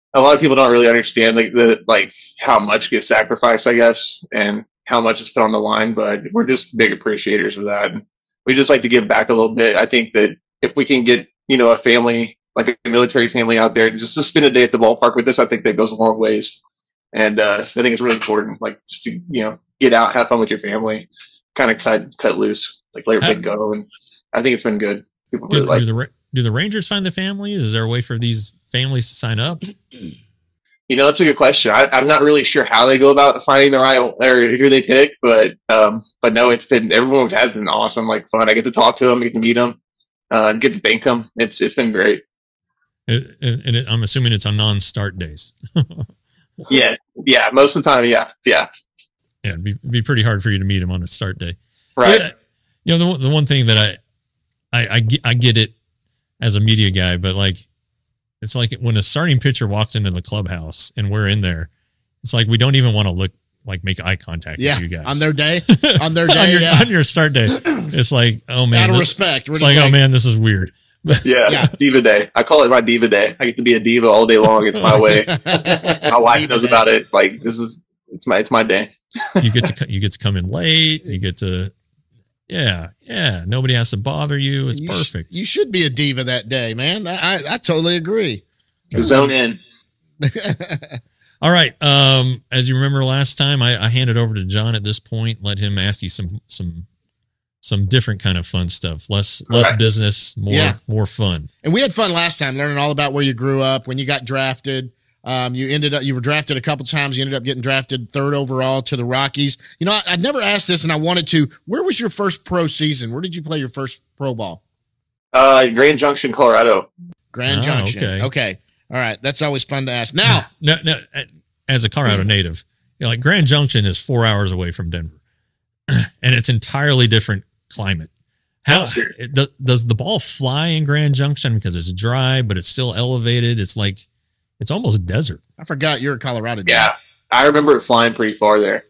a lot of people don't really understand like the like how much gets sacrificed, I guess, and how much is put on the line. But we're just big appreciators of that. We just like to give back a little bit. I think that if we can get, you know, a family, like a military family out there, just to spend a day at the ballpark with us, I think that goes a long ways. And uh, I think it's really important, like, just to, you know, get out, have fun with your family, kind of cut cut loose, like let everything go. And I think it's been good. People do, really like do the do the Rangers find the families? Is there a way for these families to sign up? You know, that's a good question. I, I'm not really sure how they go about finding the right or who they pick, but um, but no, it's been everyone has been awesome, like fun. I get to talk to them, get to meet them, uh, get to thank them. It's it's been great. It, and it, I'm assuming it's on non-start days. yeah, yeah, most of the time, yeah, yeah, yeah. It'd be, it'd be pretty hard for you to meet them on a start day, right? Yeah, you know, the the one thing that I, I I get, I get it as a media guy, but like. It's like when a starting pitcher walks into the clubhouse and we're in there, it's like we don't even want to look like make eye contact yeah, with you guys. On their day? On their day, on, your, yeah. on your start day. It's like, oh man. Out of this, respect. We're it's like, like, oh man, this is weird. Yeah, yeah, diva day. I call it my diva day. I get to be a diva all day long. It's my way. My wife Diva knows day. about it. It's like, this is, it's my, it's my day. You get to, you get to come in late. You get to, yeah, yeah. Nobody has to bother you. It's you sh- perfect. you should be a diva that day, man. I, I, I totally agree. Zone in. All right. Um, as you remember last time, I, I handed over to John at this point. Let him ask you some some some different kind of fun stuff. Less less Right. business, more Yeah. more fun. And we had fun last time learning all about where you grew up, when you got drafted. Um, you ended up, you were drafted a couple times. You ended up getting drafted third overall to the Rockies. You know, I, I'd never asked this and I wanted to. Where was your first pro season? Where did you play your first pro ball? Uh, Grand Junction, Colorado. Grand Oh, Junction. okay. Okay. All right. That's always fun to ask. Now, No, no. As a Colorado native, you know, like Grand Junction is four hours away from Denver, and it's entirely different climate. How Oh, sure. it, does, does the ball fly in Grand Junction because it's dry, but it's still elevated? It's like it's almost desert. I forgot you're a Colorado dude. Yeah, I remember it flying pretty far there.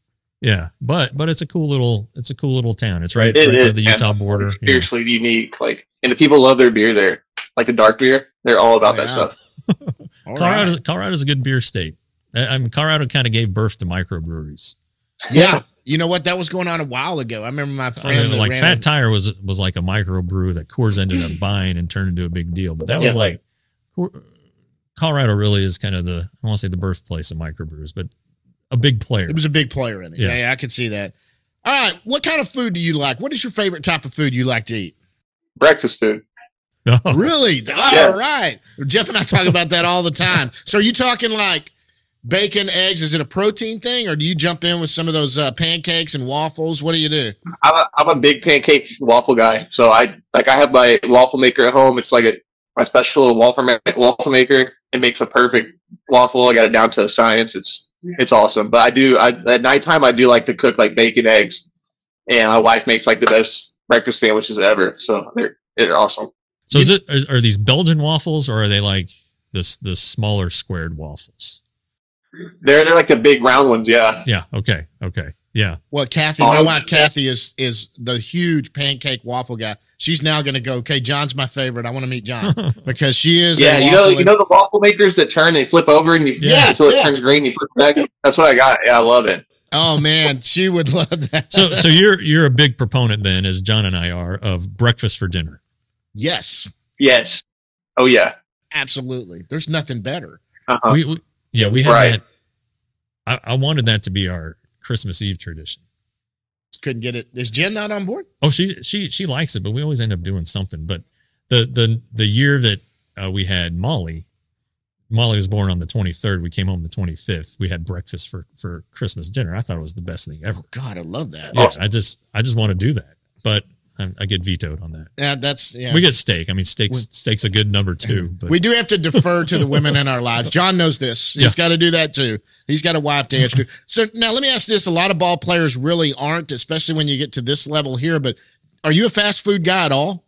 Yeah, but but it's a cool little it's a cool little town. It's right, It right is, by the man. Utah border. It's Yeah. seriously unique. Like, and the people love their beer there. Like the dark beer, they're all about Oh, that yeah. stuff. All Colorado, right. Colorado's a good beer state. I I mean, Colorado kind of gave birth to microbreweries. Yeah. You know what? That was going on a while ago. I remember my I friend. mean, that like ran Fat a- Tire was was like a microbrew that Coors ended up buying and turned into a big deal. But that was Yeah. like Cor- Colorado really is kind of the I don't want to say the birthplace of microbrews, but a big player. It was a big player in it. Yeah. Yeah. yeah, I could see that. All right. What kind of food do you like? What is your favorite type of food you like to eat? Breakfast food. Oh, Really? All Yeah. right. Jeff and I talk about that all the time. So are you talking like bacon, eggs? Is it a protein thing, or do you jump in with some of those uh, pancakes and waffles? What do you do? I'm a, I'm a big pancake waffle guy. So I like I have my waffle maker at home. It's like a my special little waffle ma- waffle maker. It makes a perfect waffle. I got it down to a science. It's it's awesome. But I do I at nighttime I do like to cook like bacon, eggs, and my wife makes like the best breakfast sandwiches ever. So they're they're awesome. so is it are, are these Belgian waffles or are they like this the smaller squared waffles? They're they're like the big round ones. Yeah. Yeah. Okay. Okay. Yeah. Well, Kathy, my Awesome. wife Kathy is is the huge pancake waffle guy. She's now going to go. Okay, John's my favorite. I want to meet John because she is. Yeah, a you know, waffle- you know the waffle makers that turn, they flip over and you Yeah, until it yeah. turns green, you flip back. That's what I got. Yeah, I love it. Oh man, she would love that. So so you're you're a big proponent then, as John and I are, of breakfast for dinner. yes, Yes. Oh yeah. absolutely. There's nothing better. Uh, Uh-huh. We, we yeah we had Right. that. I, I wanted that to be our Christmas Eve tradition. Couldn't get it. Is Jen not on board? Oh, she she she likes it, but we always end up doing something. But the the the year that uh, we had Molly, Molly was born on the twenty-third. We came home the twenty-fifth. We had breakfast for for Christmas dinner. I thought it was the best thing ever. God, I love that. Yeah, I just I just want to do that, but I, I get vetoed on that. Yeah, that's yeah. We get steak. I mean, steak's steak's a good number two. But We do have to defer to the women in our lives. John knows this. He's Yeah. got to do that too. He's got a wife to answer to. So now let me ask this. A lot of ball players really aren't, especially when you get to this level here, but are you a fast food guy at all?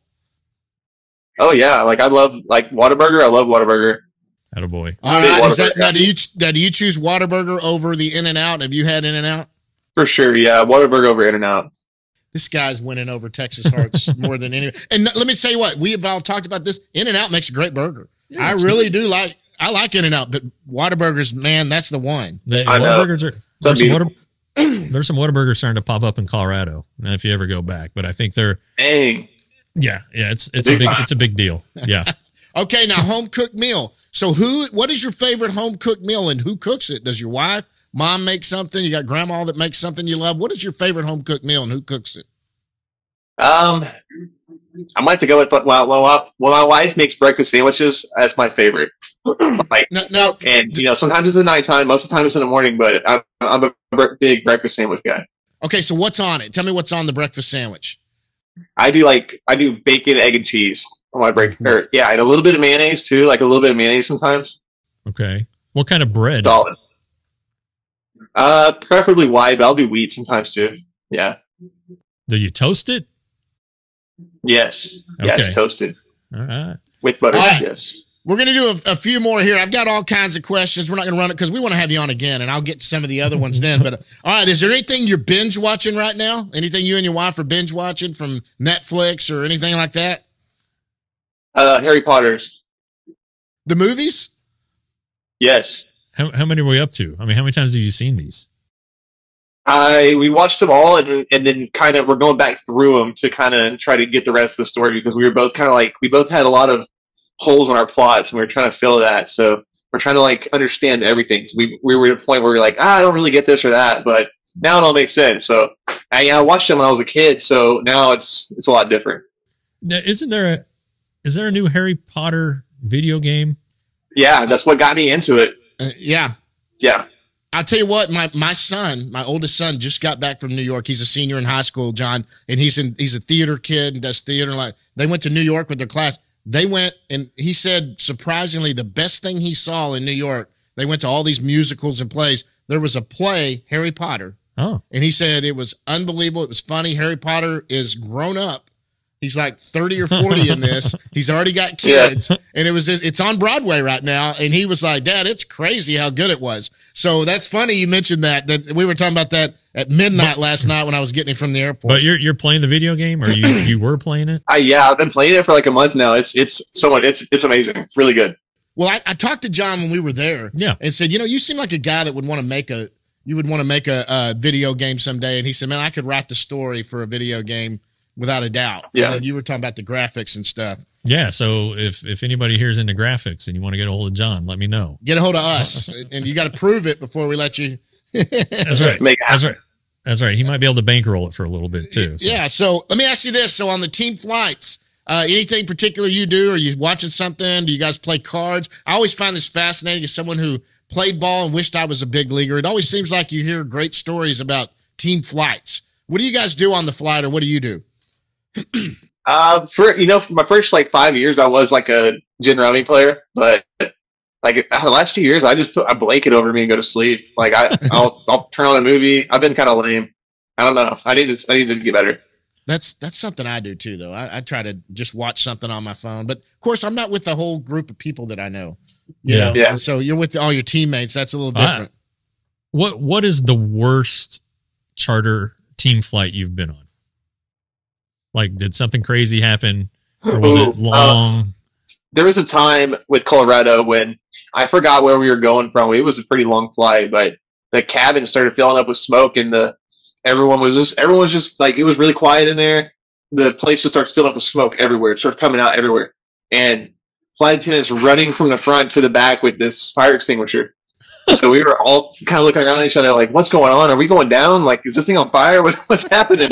Oh yeah. Like I love like Whataburger. I love Whataburger. attaboy. All Big right. Is that, Whataburger. now, do you, now, do you choose Whataburger over the In-N-Out? Have you had In-N-Out? For sure. Yeah. Whataburger over In and Out. This guy's winning over Texas hearts more than any. And let me tell you what, we have all talked about this. In-N-Out makes a great burger. I really do like, I like In-N-Out, but Whataburgers, man, that's the one. The I know. Whataburgers are there's some, Whata, there's some Whataburgers starting to pop up in Colorado. Now, if you ever go back, but I think they're Dang. yeah, yeah. It's it's a big it's a big deal. Yeah. Okay, now home cooked meal. So who? What is your favorite home cooked meal, and who cooks it? Does your wife, mom make something? You got grandma that makes something you love. What is your favorite home cooked meal, and who cooks it? Um, I might have to go with well, well, well, my wife makes breakfast sandwiches. That's my favorite. Like, No, no. and you know, sometimes it's at nighttime, most of the time it's in the morning. But I'm, I'm a bre- big breakfast sandwich guy. Okay, so what's on it? Tell me what's on the breakfast sandwich. I do like I do bacon, egg, and cheese on my break. Or yeah, and a little bit of mayonnaise too. Like a little bit of mayonnaise sometimes. Okay. What kind of bread? Is Solid. Uh, preferably white, but I'll do wheat sometimes too. Yeah. it? Do you toast it? Yes. Yeah, Okay. it's toasted All right. with butter. All right. Yes. We're going to do a, a few more here. I've got all kinds of questions. We're not going to run it because we want to have you on again, and I'll get to some of the other ones then. But uh, all right, is there anything you're binge watching right now? Anything you and your wife are binge watching from Netflix or anything like that? Uh, Harry Potter's. The movies? Yes. How how many were we up to? I mean, how many times have you seen these? I we watched them all, and and then kind of we're going back through them to kind of try to get the rest of the story because we were both kind of like we both had a lot of holes in our plots, and we were trying to fill that. So we're trying to like understand everything. We we were at a point where we were like, ah, I don't really get this or that, but now it all makes sense. So I, I watched them when I was a kid, so now it's it's a lot different. Now, isn't there a is there a new Harry Potter video game? Yeah, that's what got me into it. Uh, yeah. Yeah. I'll tell you what, my, my son, my oldest son, just got back from New York. He's a senior in high school, John, and he's in he's a theater kid and does theater. Like they went to New York with their class. They went, and he said, surprisingly, the best thing he saw in New York, they went to all these musicals and plays. There was a play, Harry Potter, Oh, and he said it was unbelievable. It was funny. Harry Potter is grown up. He's like thirty or forty in this. He's already got kids, and it was just, it's on Broadway right now. And he was like, "Dad, it's crazy how good it was." So that's funny you mentioned that. That we were talking about that at midnight last night when I was getting him from the airport. but you're you're playing the video game, or you you were playing it? I yeah, I've been playing it for like a month now. It's it's so much. It's it's amazing. It's really good. Well, I, I talked to John when we were there, Yeah. and said, you know, you seem like a guy that would want to make a you would want to make a, a video game someday. And he said, man, I could write the story for a video game without a doubt. Yeah. And then you were talking about the graphics and stuff. Yeah. So if if anybody here's into graphics and you want to get a hold of John, let me know. Get a hold of us, and you got to prove it before we let you. That's right. Make it That's happen. right. That's right. He might be able to bankroll it for a little bit too. so. Yeah. So let me ask you this: so on the team flights, uh, anything particular you do? Are you watching something? Do you guys play cards? I always find this fascinating as someone who played ball and wished I was a big leaguer. It always seems like you hear great stories about team flights. What do you guys do on the flight, or what do you do? Uh, for you know, for my first like five years, I was like a gin rummy player, but like the last few years, I just put a blanket over me and go to sleep. Like I, I'll I'll turn on a movie. I've been kind of lame. I don't know. I need to I need to get better. That's that's something I do too, though. I, I try to just watch something on my phone, but of course, I'm not with the whole group of people that I know. You Yeah. know? Yeah. So you're with all your teammates. That's a little I- different. What what is the worst charter team flight you've been on? Like, did something crazy happen, or was Ooh, it long? There was a time with Colorado when I forgot where we were going from. It was a pretty long flight, but the cabin started filling up with smoke, and the everyone was just everyone was just like it was really quiet in there. The place just starts filling up with smoke everywhere. It starts coming out everywhere, and flight attendants running from the front to the back with this fire extinguisher. So we were all kind of looking around at each other like, "What's going on? Are we going down? Like, is this thing on fire? What, what's happening?"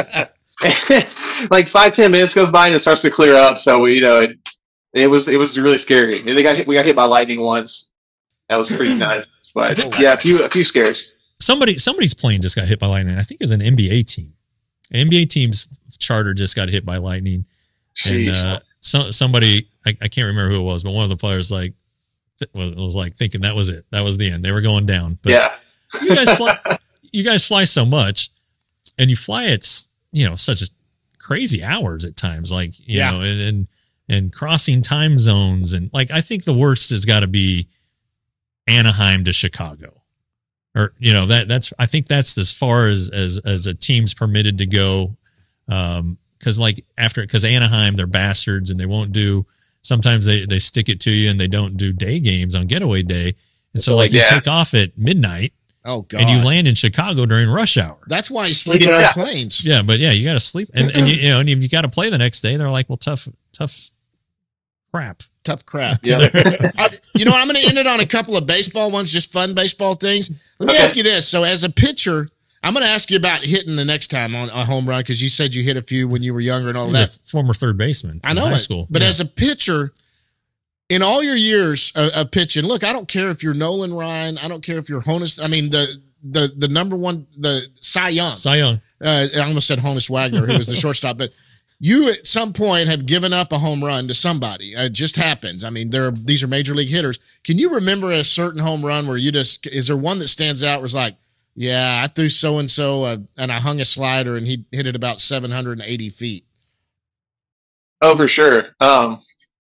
Like five ten minutes goes by and it starts to clear up. So we, you know, it, it was it was really scary. And they got hit, we got hit by lightning once. That was pretty nice. But yeah, a few a few scares. Somebody somebody's plane just got hit by lightning. I think it was an N B A team. An N B A team's charter just got hit by lightning, and Jeez. uh, so, somebody I, I can't remember who it was, but one of the players like th- was, was like thinking that was it. That was the end. They were going down. But Yeah. you guys fly, you guys fly so much, and you fly at you know such a crazy hours at times, like you Yeah. know, and, and and crossing time zones, and like I think the worst has got to be Anaheim to Chicago, or you know that that's I think that's as far as as as a team's permitted to go, um, because like after because Anaheim they're bastards and they won't do sometimes they, they stick it to you and they don't do day games on getaway day. And so like you Yeah. take off at midnight Oh, God. and you land in Chicago during rush hour. That's why he's sleeping Yeah. on planes. Yeah, but yeah, you got to sleep, and, and you, you know, and you got to play the next day. They're like, well, tough, tough crap. Tough crap. Yeah. I- you know, I'm going to end it on a couple of baseball ones, just fun baseball things. Let me Okay. ask you this. So, as a pitcher, I'm going to ask you about hitting the next time on a home run because you said you hit a few when you were younger and all He's that. a former third baseman. I in know high it. school, But Yeah. as a pitcher, in all your years of, of pitching, look, I don't care if you're Nolan Ryan. I don't care if you're Honus. I mean, the the the number one, the Cy Young. Cy Young. Uh, I almost said Honus Wagner, who was the shortstop, but you at some point have given up a home run to somebody. Uh, It just happens. I mean, there are, these are major league hitters. Can you remember a certain home run where you just, is there one that stands out where it's like, yeah, I threw so-and-so uh, and I hung a slider and he hit it about seven hundred eighty feet. Oh, for sure. Um,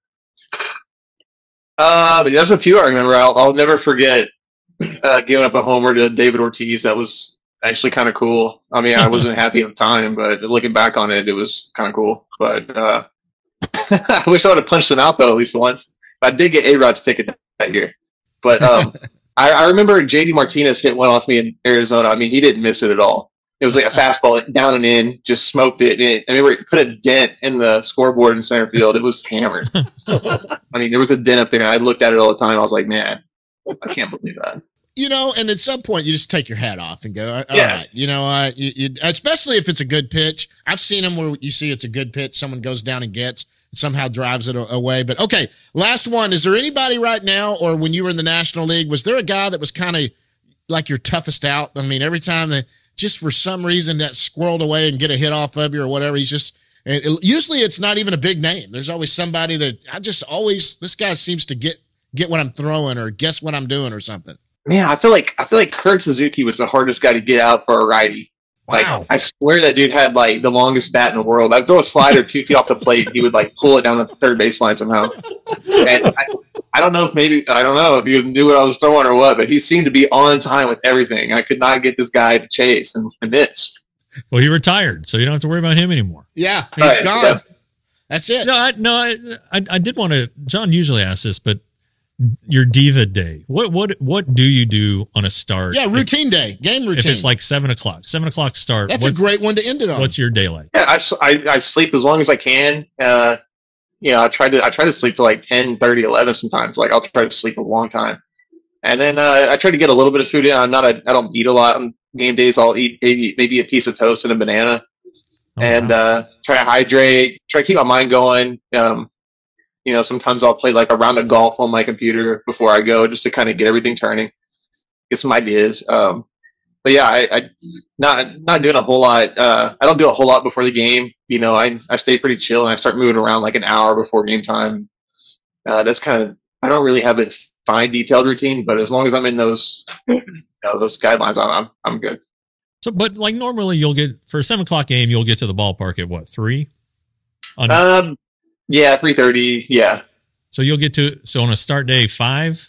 uh, but there's a few I remember. I'll, I'll never forget uh, giving up a homer to David Ortiz. That was actually kind of cool. I mean, I wasn't happy at the time, but looking back on it, it was kind of cool. But uh, I wish I would have punched him out though at least once. I did get A-Rod's ticket that year. But um, I, I remember J D Martinez hit one off me in Arizona. I mean, he didn't miss it at all. It was like a fastball down and in, just smoked it. And it, I remember it put a dent in the scoreboard in center field. It was hammered. I mean, there was a dent up there. I looked at it all the time. I was like, man, I can't believe that. You know, and at some point you just take your hat off and go, all Yeah. right, you know, uh, you, you, especially if it's a good pitch. I've seen them where you see it's a good pitch, someone goes down and gets, and somehow drives it a- away. But okay, last one. Is there anybody right now, or when you were in the National League, was there a guy that was kind of like your toughest out? I mean, every time that just for some reason that squirreled away and get a hit off of you or whatever, he's just, and it, usually it's not even a big name. There's always somebody that I just always, this guy seems to get, get what I'm throwing or guess what I'm doing or something. Man, I feel like I feel like Kurt Suzuki was the hardest guy to get out for a righty. Like, Wow. I swear that dude had like the longest bat in the world. I'd throw a slider two feet off the plate, he would like pull it down the third baseline somehow. And I, I don't know if maybe I don't know if you knew what I was throwing or what, but he seemed to be on time with everything. I could not get this guy to chase and, and miss. Well, he retired, so you don't have to worry about him anymore. Yeah, he's Right, gone. yeah. That's it. No, I, no, I, I, I did want to. John usually asks this, but your diva day. What, what, what do you do on a start? yeah, routine day, game If, routine. if it's like seven o'clock, seven o'clock start. That's a what's, great one to end it on. What's your day like? Yeah, I, s- I- I sleep as long as I can. Uh, you know, I try to I try to sleep till like ten, thirty, eleven sometimes. Like I'll try to sleep a long time, and then uh, I try to get a little bit of food in. I'm not a I don't eat a lot on game days. I'll eat maybe maybe a piece of toast and a banana, Oh, and wow. uh, try to hydrate. Try to keep my mind going. Um, you know, sometimes I'll play like a round of golf on my computer before I go, just to kind of get everything turning, get some ideas. Um, but yeah, I, I not not doing a whole lot. Uh, I don't do a whole lot before the game. You know, I I stay pretty chill and I start moving around like an hour before game time. Uh, that's kind of I don't really have a fine detailed routine, but as long as I'm in those you know, those guidelines, I'm I'm, I'm good. So, but like normally you'll get for a seven o'clock game, you'll get to the ballpark at what three? On, Um, yeah, three thirty. Yeah, so you'll get to so on a start day five.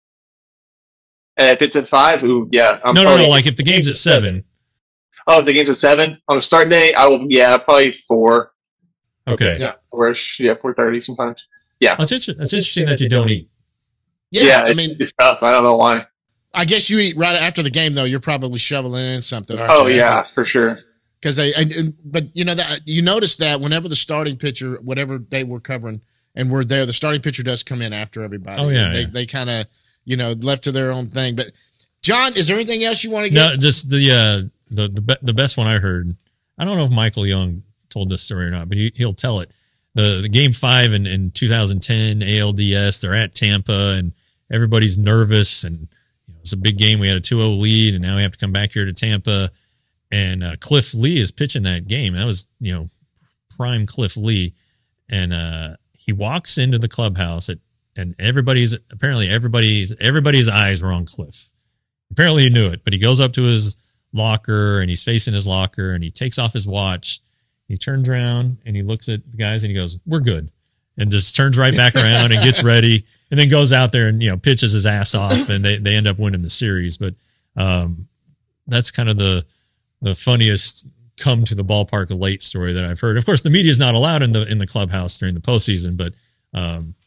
and if it's at five, ooh, yeah. I'm no, no, probably, no. Like if the game's at seven. oh, if the game's at seven on a start day, I will. Yeah, probably four. Okay, Yeah. Or yeah, four thirty sometimes. Yeah, that's inter- that's interesting that you don't eat. yeah, yeah. I it- mean, it's tough. I don't know why. I guess you eat right after the game, though. You're probably shoveling in something. Aren't Oh you? yeah, for sure. because they. And, and, but you know that you notice that whenever the starting pitcher, whatever they were covering, and we're there, the starting pitcher does come in after everybody. Oh, yeah, they yeah. they kind of you know left to their own thing. But John, is there anything else you want to No, get? just the uh, the the be- the best one I heard. I don't know if Michael Young told this story or not, but he, he'll tell it. The the game five in, in two thousand ten A L D S. They're at Tampa and everybody's nervous and you know, it's a big game. We had a two oh lead and now we have to come back here to Tampa. And uh, Cliff Lee is pitching that game. That was you know prime Cliff Lee, and uh, he walks into the clubhouse at, and everybody's apparently everybody's everybody's eyes were on Cliff. Apparently he knew it, but he goes up to his locker and he's facing his locker and he takes off his watch. He turns around and he looks at the guys and he goes, "We're good," and just turns right back around and gets ready and then goes out there and you know pitches his ass off and they they end up winning the series. But um, that's kind of the the funniest come to the ballpark late story that I've heard. Of course, the media is not allowed in the in the clubhouse during the postseason, but um,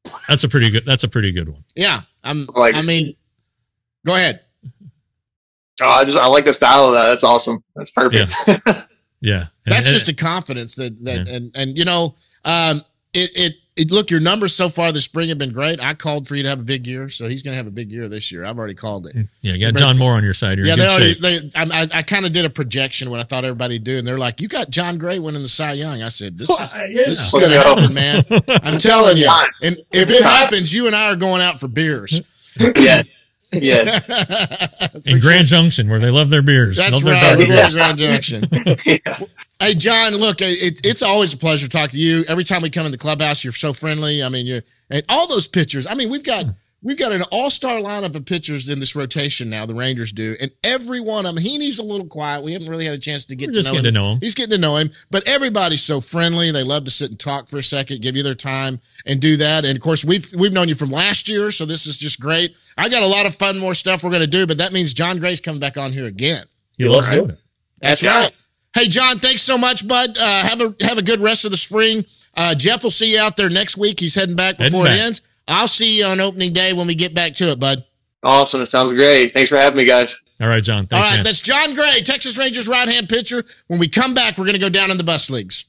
That's a pretty good. That's a pretty good one. Yeah, I'm. Like- I mean, go ahead. Oh, I just I like the style of that. That's awesome. That's perfect. Yeah, and, That's and- just a confidence that that Yeah. and and you know, um, it it it look your numbers so far this spring have been great. I called for you to have a big year, so he's going to have a big year this year. I've already called it. yeah. You got John Moore on your side. You're Yeah, in they good already. shape. They, I, I, I kind of did a projection what I thought everybody'd do, and they're like, "You got John Gray winning the Cy Young." I said, "This is this is Let's going to go. happen, man." I'm telling you. Yeah. And if it happens, you and I are going out for beers. yeah, yeah, in Grand Junction, where they love their beers. That's love their right. barbecue. We love Grand Junction. yeah. Hey, John, look, it, it's always a pleasure to talk to you. Every time we come in the clubhouse, you're so friendly. I mean, you're and all those pitchers. I mean, we've got we've got an all-star lineup of pitchers in this rotation now. The Rangers do, and every one of them. Heaney's a little quiet. We haven't really had a chance to get We're to just know getting him. to know him. He's getting to know him, but everybody's so friendly. They love to sit and talk for a second, give you their time, and do that. And of course, we've we've known you from last year, so this is just great. I got a lot of fun, more stuff we're going to do, but that means John Gray's coming back on here again. He loves Right. doing it. That's Yeah. right. Hey, John, thanks so much, bud. Uh, have a have a good rest of the spring. Uh, Jeff will see you out there next week. He's heading back Heading before back. it ends. I'll see you on opening day when we get back to it, bud. Awesome. It sounds great. Thanks for having me, guys. All right, John. All Thanks, right, man. that's John Gray, Texas Rangers right-hand pitcher. When we come back, we're going to go down in the bus leagues.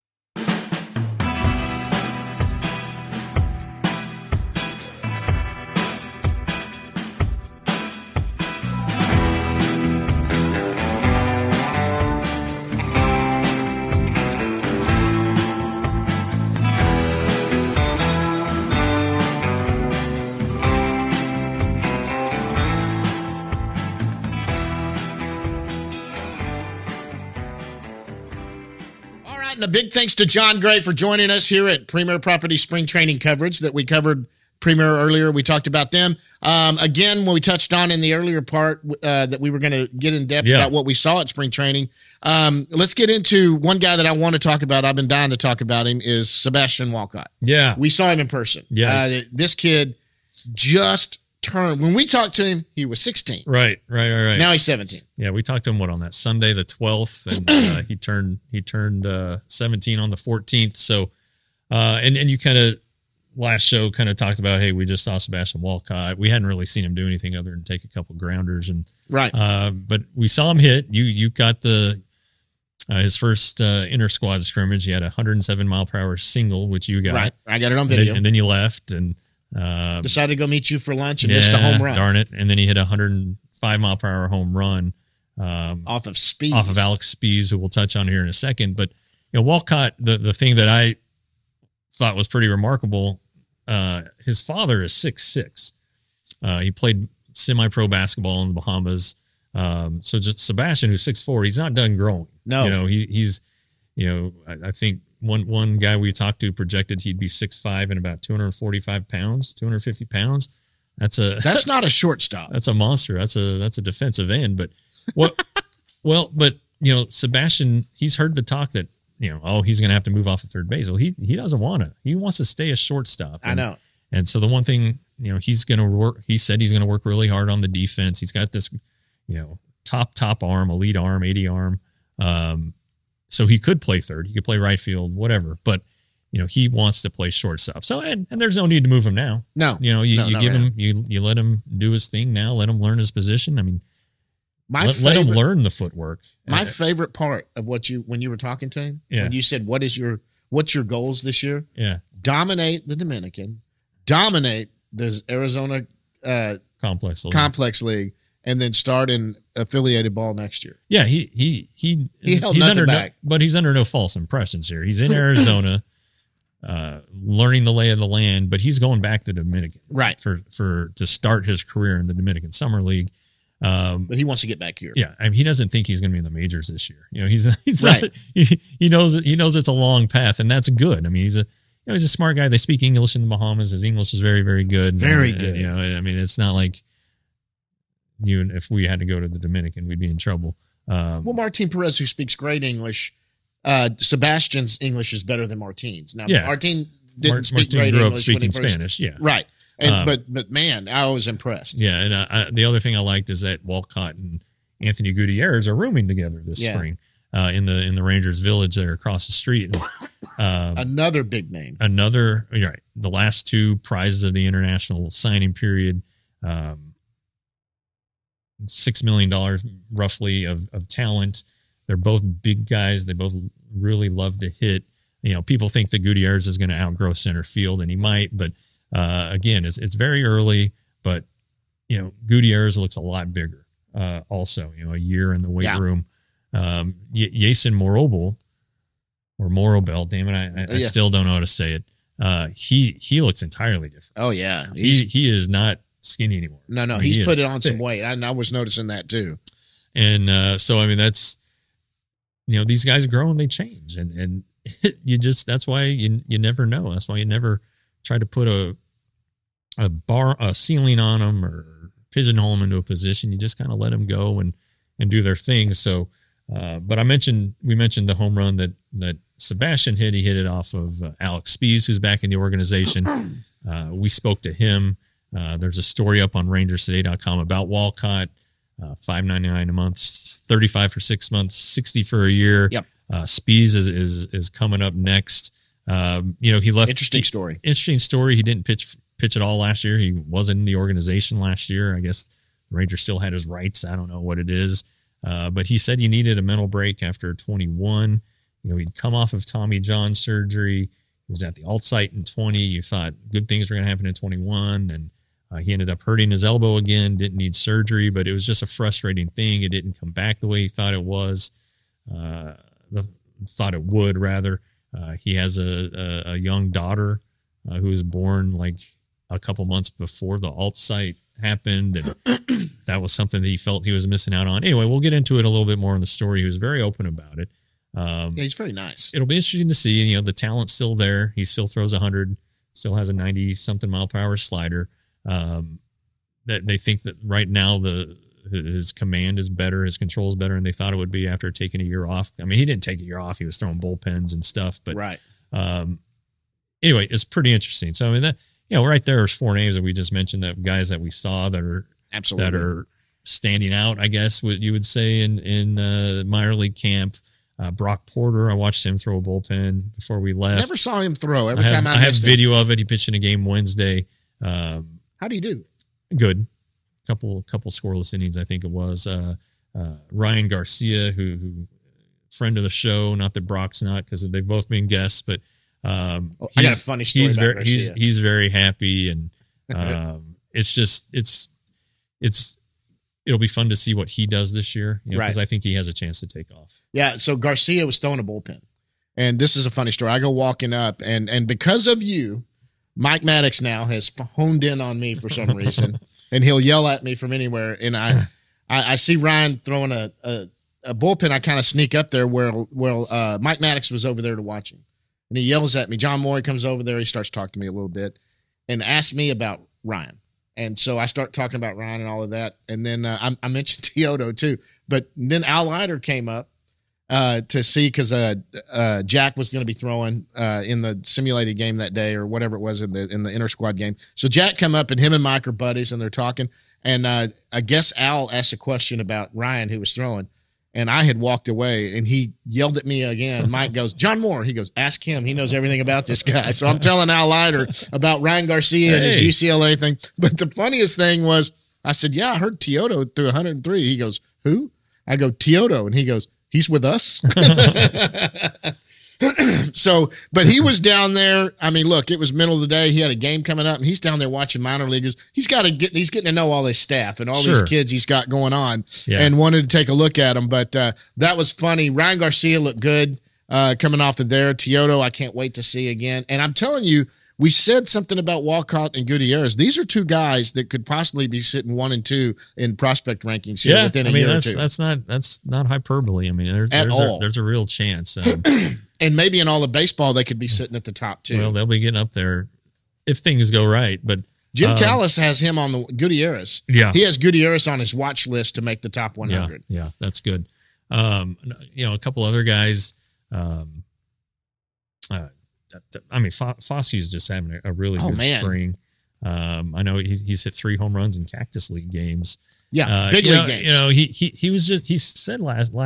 All right, and a big thanks to John Gray for joining us here at Premier Property Spring Training coverage that we covered Premier earlier. We talked about them. Um, again, when we touched on in the earlier part uh, that we were going to get in depth Yeah. about what we saw at spring training. Um, let's get into one guy that I want to talk about. I've been dying to talk about him is Sebastian Walcott. yeah. We saw him in person. Yeah. Uh, this kid just turned. When we talked to him, he was sixteen. Right, right, right, right. Now he's seventeen. Yeah, we talked to him what on that Sunday the twelfth, and uh, he turned he turned uh, seventeen on the fourteenth. So, uh, and and you kind of last show kind of talked about, hey, we just saw Sebastian Walcott. We hadn't really seen him do anything other than take a couple grounders, and Right. uh, but we saw him hit. You you got the uh, his first uh, inter squad scrimmage. He had a one hundred seven mile per hour single, which you got, Right. I got it on and video. then, and then you left and. Uh, Decided to go meet you for lunch and missed a home run Darn it. And then he hit a one hundred five mile per hour home run um, off of speed. off of Alex Spees, who we'll touch on here in a second. But, you know, Walcott, the, the thing that I thought was pretty remarkable, uh, his father is six six. Uh, he played semi-pro basketball in the Bahamas. Um, so just Sebastian, who's six four, he's not done growing. No. You know, he, he's, you know, I, I think one one guy we talked to projected he'd be six five and about two hundred forty-five pounds, two hundred fifty pounds. That's a That's not a shortstop. that's a monster. That's a that's a defensive end. But what? well, but you know, Sebastian, he's heard the talk that you know, oh, he's going to have to move off of third base. Well, he he doesn't want to. He wants to stay a shortstop. I And- know. And so the one thing, you know, he's going to work. He said he's going to work really hard on the defense. He's got this, you know, top top arm, elite arm, eighty arm. Um, so he could play third. He could play right field, whatever. But you know, he wants to play shortstop. So and, and there's no need to move him now. No. You know, you, No, you no, give no. him you you let him do his thing now. Let him learn his position. I mean, My let, let him favorite- learn the footwork. My Uh, favorite part of what you when you were talking to him, Yeah. when you said, "What is your what's your goals this year?" yeah, Dominate the Dominican, dominate the Arizona uh, complex. league. Complex League, and then start in affiliated ball next year. Yeah, he he he He held he's nothing under back. no, but he's under no false impressions here. He's in Arizona, uh, learning the lay of the land, but he's going back to Dominican, Right. For for to start his career in the Dominican Summer League. Um, But he wants to get back here. yeah, I mean, he doesn't think he's going to be in the majors this year. You know, he's he's Right. not, he, he knows he knows it's a long path, and that's good. I mean, he's a you know he's a smart guy. They speak English in the Bahamas. His English is very very good. Very And, good. You know, I mean, it's not like you and if we had to go to the Dominican, we'd be in trouble. Um, Well, Martin Perez, who speaks great English, uh, Sebastian's English is better than Martin's. Now, Yeah. Martin didn't Mart- speak Martin great grew up English when he speaking first, Spanish. Yeah, right? And Um, but but man, I was impressed. yeah. And uh, I, the other thing I liked is that Walcott and Anthony Gutierrez are rooming together this Yeah. spring. uh, in the in the Rangers Village there across the street. And, um, Another big name. Another, you're right. The last two prizes of the international signing period, um, six million dollars roughly of of talent. They're both big guys. They both really love to hit. You know, people think that Gutierrez is going to outgrow center field, and he might. But uh, again, it's it's very early. But you know, Gutierrez looks a lot bigger. Uh, also, you know, a year in the weight Yeah. room. Um, y- Jason Morobel or Morobel, damn it, I, I, I Yeah. still don't know how to say it. Uh, he he looks entirely different. Oh yeah, He he is not skinny anymore. no, no, I mean, he's he put is it on some thick. weight. I, I was noticing that too. And uh, so, I mean, that's, you know, these guys grow and they change. And, and you just, that's why you, you never know. That's why you never try to put a, a bar, a ceiling on them or pigeonhole them into a position. You just kind of let them go and, and do their thing. So, uh, but I mentioned, we mentioned the home run that, that Sebastian hit. He hit it off of uh, Alex Spees, who's back in the organization. Uh, we spoke to him. Uh, there's a story up on rangers today dot com about Walcott. Uh, five ninety-nine a month, thirty-five for six months, sixty for a year. Yep. Uh, Spees is, is, is coming up next. Um, you know, he left Interesting he- story. Interesting story. He didn't pitch, pitch at all last year. He wasn't in the organization last year. I guess the Rangers still had his rights. I don't know what it is. Uh, but he said he needed a mental break after twenty-one. You know, he'd come off of Tommy John surgery. He was at the alt site in twenty. You thought good things were going to happen in twenty-one. And Uh, he ended up hurting his elbow again, didn't need surgery, but it was just a frustrating thing. It didn't come back the way he thought it was, uh, the, thought it would rather. Uh, he has a, a, a young daughter uh, who was born like a couple months before the alt site happened. And that was something that he felt he was missing out on. Anyway, we'll get into it a little bit more in the story. He was very open about it. Um, Yeah, he's very nice. it'll be interesting to see. You know, the talent's still there. He still throws one hundred, still has a ninety something mile per hour slider. Um, that they think that right now the his command is better, his control is better, and they thought it would be after taking a year off. I mean, he didn't take a year off; he was throwing bullpens and stuff. But Right. um, anyway, it's pretty interesting. So I mean, that you know, right there's four names that we just mentioned, that guys that we saw that are Absolutely. that are standing out, I guess what you would say in in uh, minor league camp. Uh, Brock Porter, I watched him throw a bullpen before we left. Never saw him throw. Every I have, time I, I have missed him. video of it. He pitched in a game Wednesday. Um, How do you do? good. Couple couple scoreless innings, I think it was. Uh, uh, Ryan Garcia, who, who friend of the show, not that Brock's not, because they've both been guests, but um, Oh, I got a he's- funny story He's about very he's Garcia. he's very happy, and um, it's just it's it's it'll be fun to see what he does this year, you know, because Right. I think he has a chance to take off. Yeah, so Garcia was throwing a bullpen. And this is a funny story. I go walking up, and and because of you, Mike Maddox now has honed in on me for some reason, and he'll yell at me from anywhere. And I I, I see Ryan throwing a, a, a bullpen. I kind of sneak up there where, where uh, Mike Maddox was over there to watch him. And he yells at me. John Morey comes over there. He starts talking to me a little bit and asks me about Ryan. And so I start talking about Ryan and all of that. And then uh, I, I mentioned Teodo too. But then Al Leiter came up uh, to see because uh, uh, Jack was going to be throwing uh, in the simulated game that day or whatever it was in the in the inter squad game. So Jack come up and him and Mike are buddies and they're talking. And uh, I guess Al asked a question about Ryan who was throwing. And I had walked away and he yelled at me again. Mike goes, John Moore. He goes, ask him. He knows everything about this guy. So I'm telling Al Leiter about Ryan Garcia and his Hey. U C L A thing. But the funniest thing was I said, yeah, I heard Teodo threw one hundred three. He goes, who? I go, Teodo. And he goes, he's with us. So, but he was down there. I mean, look, it was middle of the day. He had a game coming up and he's down there watching minor leaguers. He's got to get, he's getting to know all his staff and all Sure. these kids he's got going on Yeah. and wanted to take a look at them. But uh, that was funny. Ryan Garcia looked good uh, coming off the there. Teodo, I can't wait to see again. And I'm telling you, we said something about Walcott and Gutierrez. These are two guys that could possibly be sitting one and two in prospect rankings here Yeah, within a I mean year that's or two. that's not that's not hyperbole. I mean there, At there's all. a, there's a real chance. Um, And maybe in all of baseball, they could be sitting at the top too. well, they'll be getting up there if things go right. But Jim um, Callis has him on the Gutierrez. Yeah. He has Gutierrez on his watch list to make the top one yeah, hundred. yeah, that's good. Um, you know, a couple other guys. Um, uh, that- that- I mean, Fo- Fosse's just having a, a really Oh, good man. spring. Um, I know he's, he's hit three home runs in Cactus League games. Yeah, Uh, big you league know, games. You know, he he he was just he said last last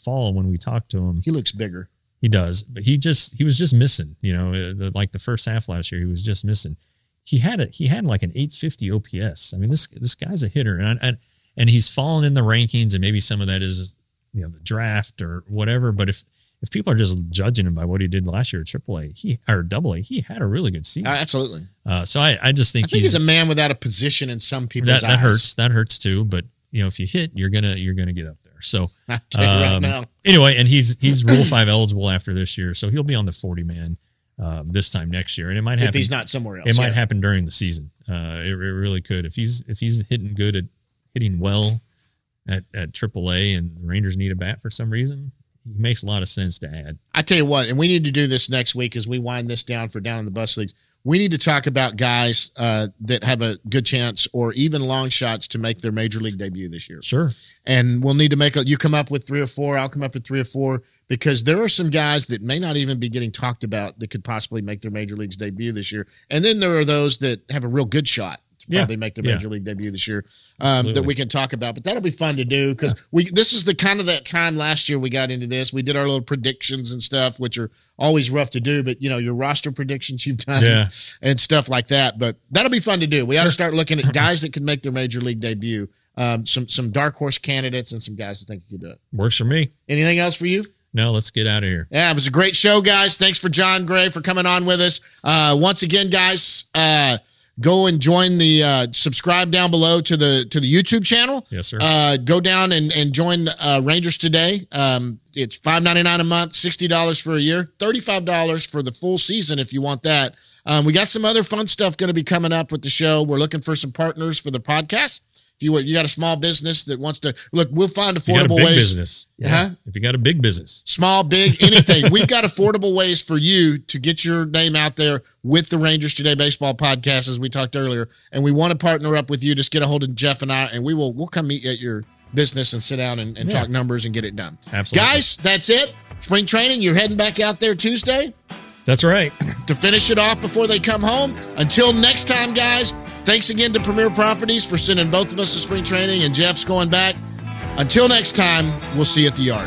fall when we talked to him. He looks bigger. He does, but he just he was just missing. You know, the, like the first half last year, he was just missing. He had a he had like an eight fifty O P S. I mean, this this guy's a hitter, and and and he's fallen in the rankings, and maybe some of that is, you know, the draft or whatever. But if if people are just judging him by what he did last year at triple A, he or double A, he had a really good season. Uh, absolutely. Uh, so I, I just think, I think he's, he's a man without a position in some people's that, eyes. that hurts. That hurts too. But you know, if you hit, you're gonna you're gonna get up there. So I'll tell you right um, now. Anyway, and he's he's Rule Five eligible after this year, so he'll be on the forty man uh, this time next year, and it might happen If he's not somewhere else. It might yeah. happen during the season. Uh, it, it really could. If he's if he's hitting good at hitting well at at triple A, and the Rangers need a bat for some reason, it makes a lot of sense to add. I tell you what, and we need to do this next week as we wind this down for Down in the Bus Leagues. We need to talk about guys uh, that have a good chance or even long shots to make their major league debut this year. Sure. And we'll need to make a, you come up with three or four, I'll come up with three or four, because there are some guys that may not even be getting talked about that could possibly make their major leagues debut this year. And then there are those that have a real good shot to probably Yeah. make their Yeah. major league debut this year um, that Absolutely. we can talk about. But that'll be fun to do because Yeah. we this is the kind of that time last year we got into this. We did our little predictions and stuff, which are always rough to do, but you know, your roster predictions you've done Yeah. and stuff like that. But that'll be fun to do. We ought to start looking at guys that can make their major league debut. Um, some some dark horse candidates and some guys that think you could do it. Works for me. Anything else for you? No, let's get out of here. Yeah, it was a great show, guys. Thanks for John Gray for coming on with us. Uh, once again, guys, uh, go and join the uh, subscribe down below to the to the YouTube channel. Yes, sir. Uh, go down and and join uh, Rangers Today. Um, it's five ninety-nine a month, sixty dollars for a year, thirty-five dollars for the full season if you want that. Um, we got some other fun stuff going to be coming up with the show. We're looking for some partners for the podcast. If you you got a small business that wants to look, we'll find If you got a affordable big ways. business. Huh? If you got a big business. Small, big, anything. We've got affordable ways for you to get your name out there with the Rangers Today Baseball Podcast, as we talked earlier. And we want to partner up with you. Just get a hold of Jeff and I, and we will we'll come meet you at your business and sit down and, and Yeah. talk numbers and get it done. Absolutely. Guys, that's it. Spring training. You're heading back out there Tuesday That's right. to finish it off before they come home. Until next time, guys, thanks again to Premier Properties for sending both of us to spring training, and Jeff's going back. Until next time, we'll see you at the yard.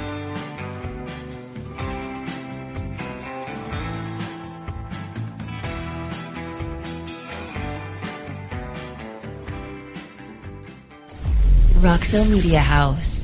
Roxo Media House.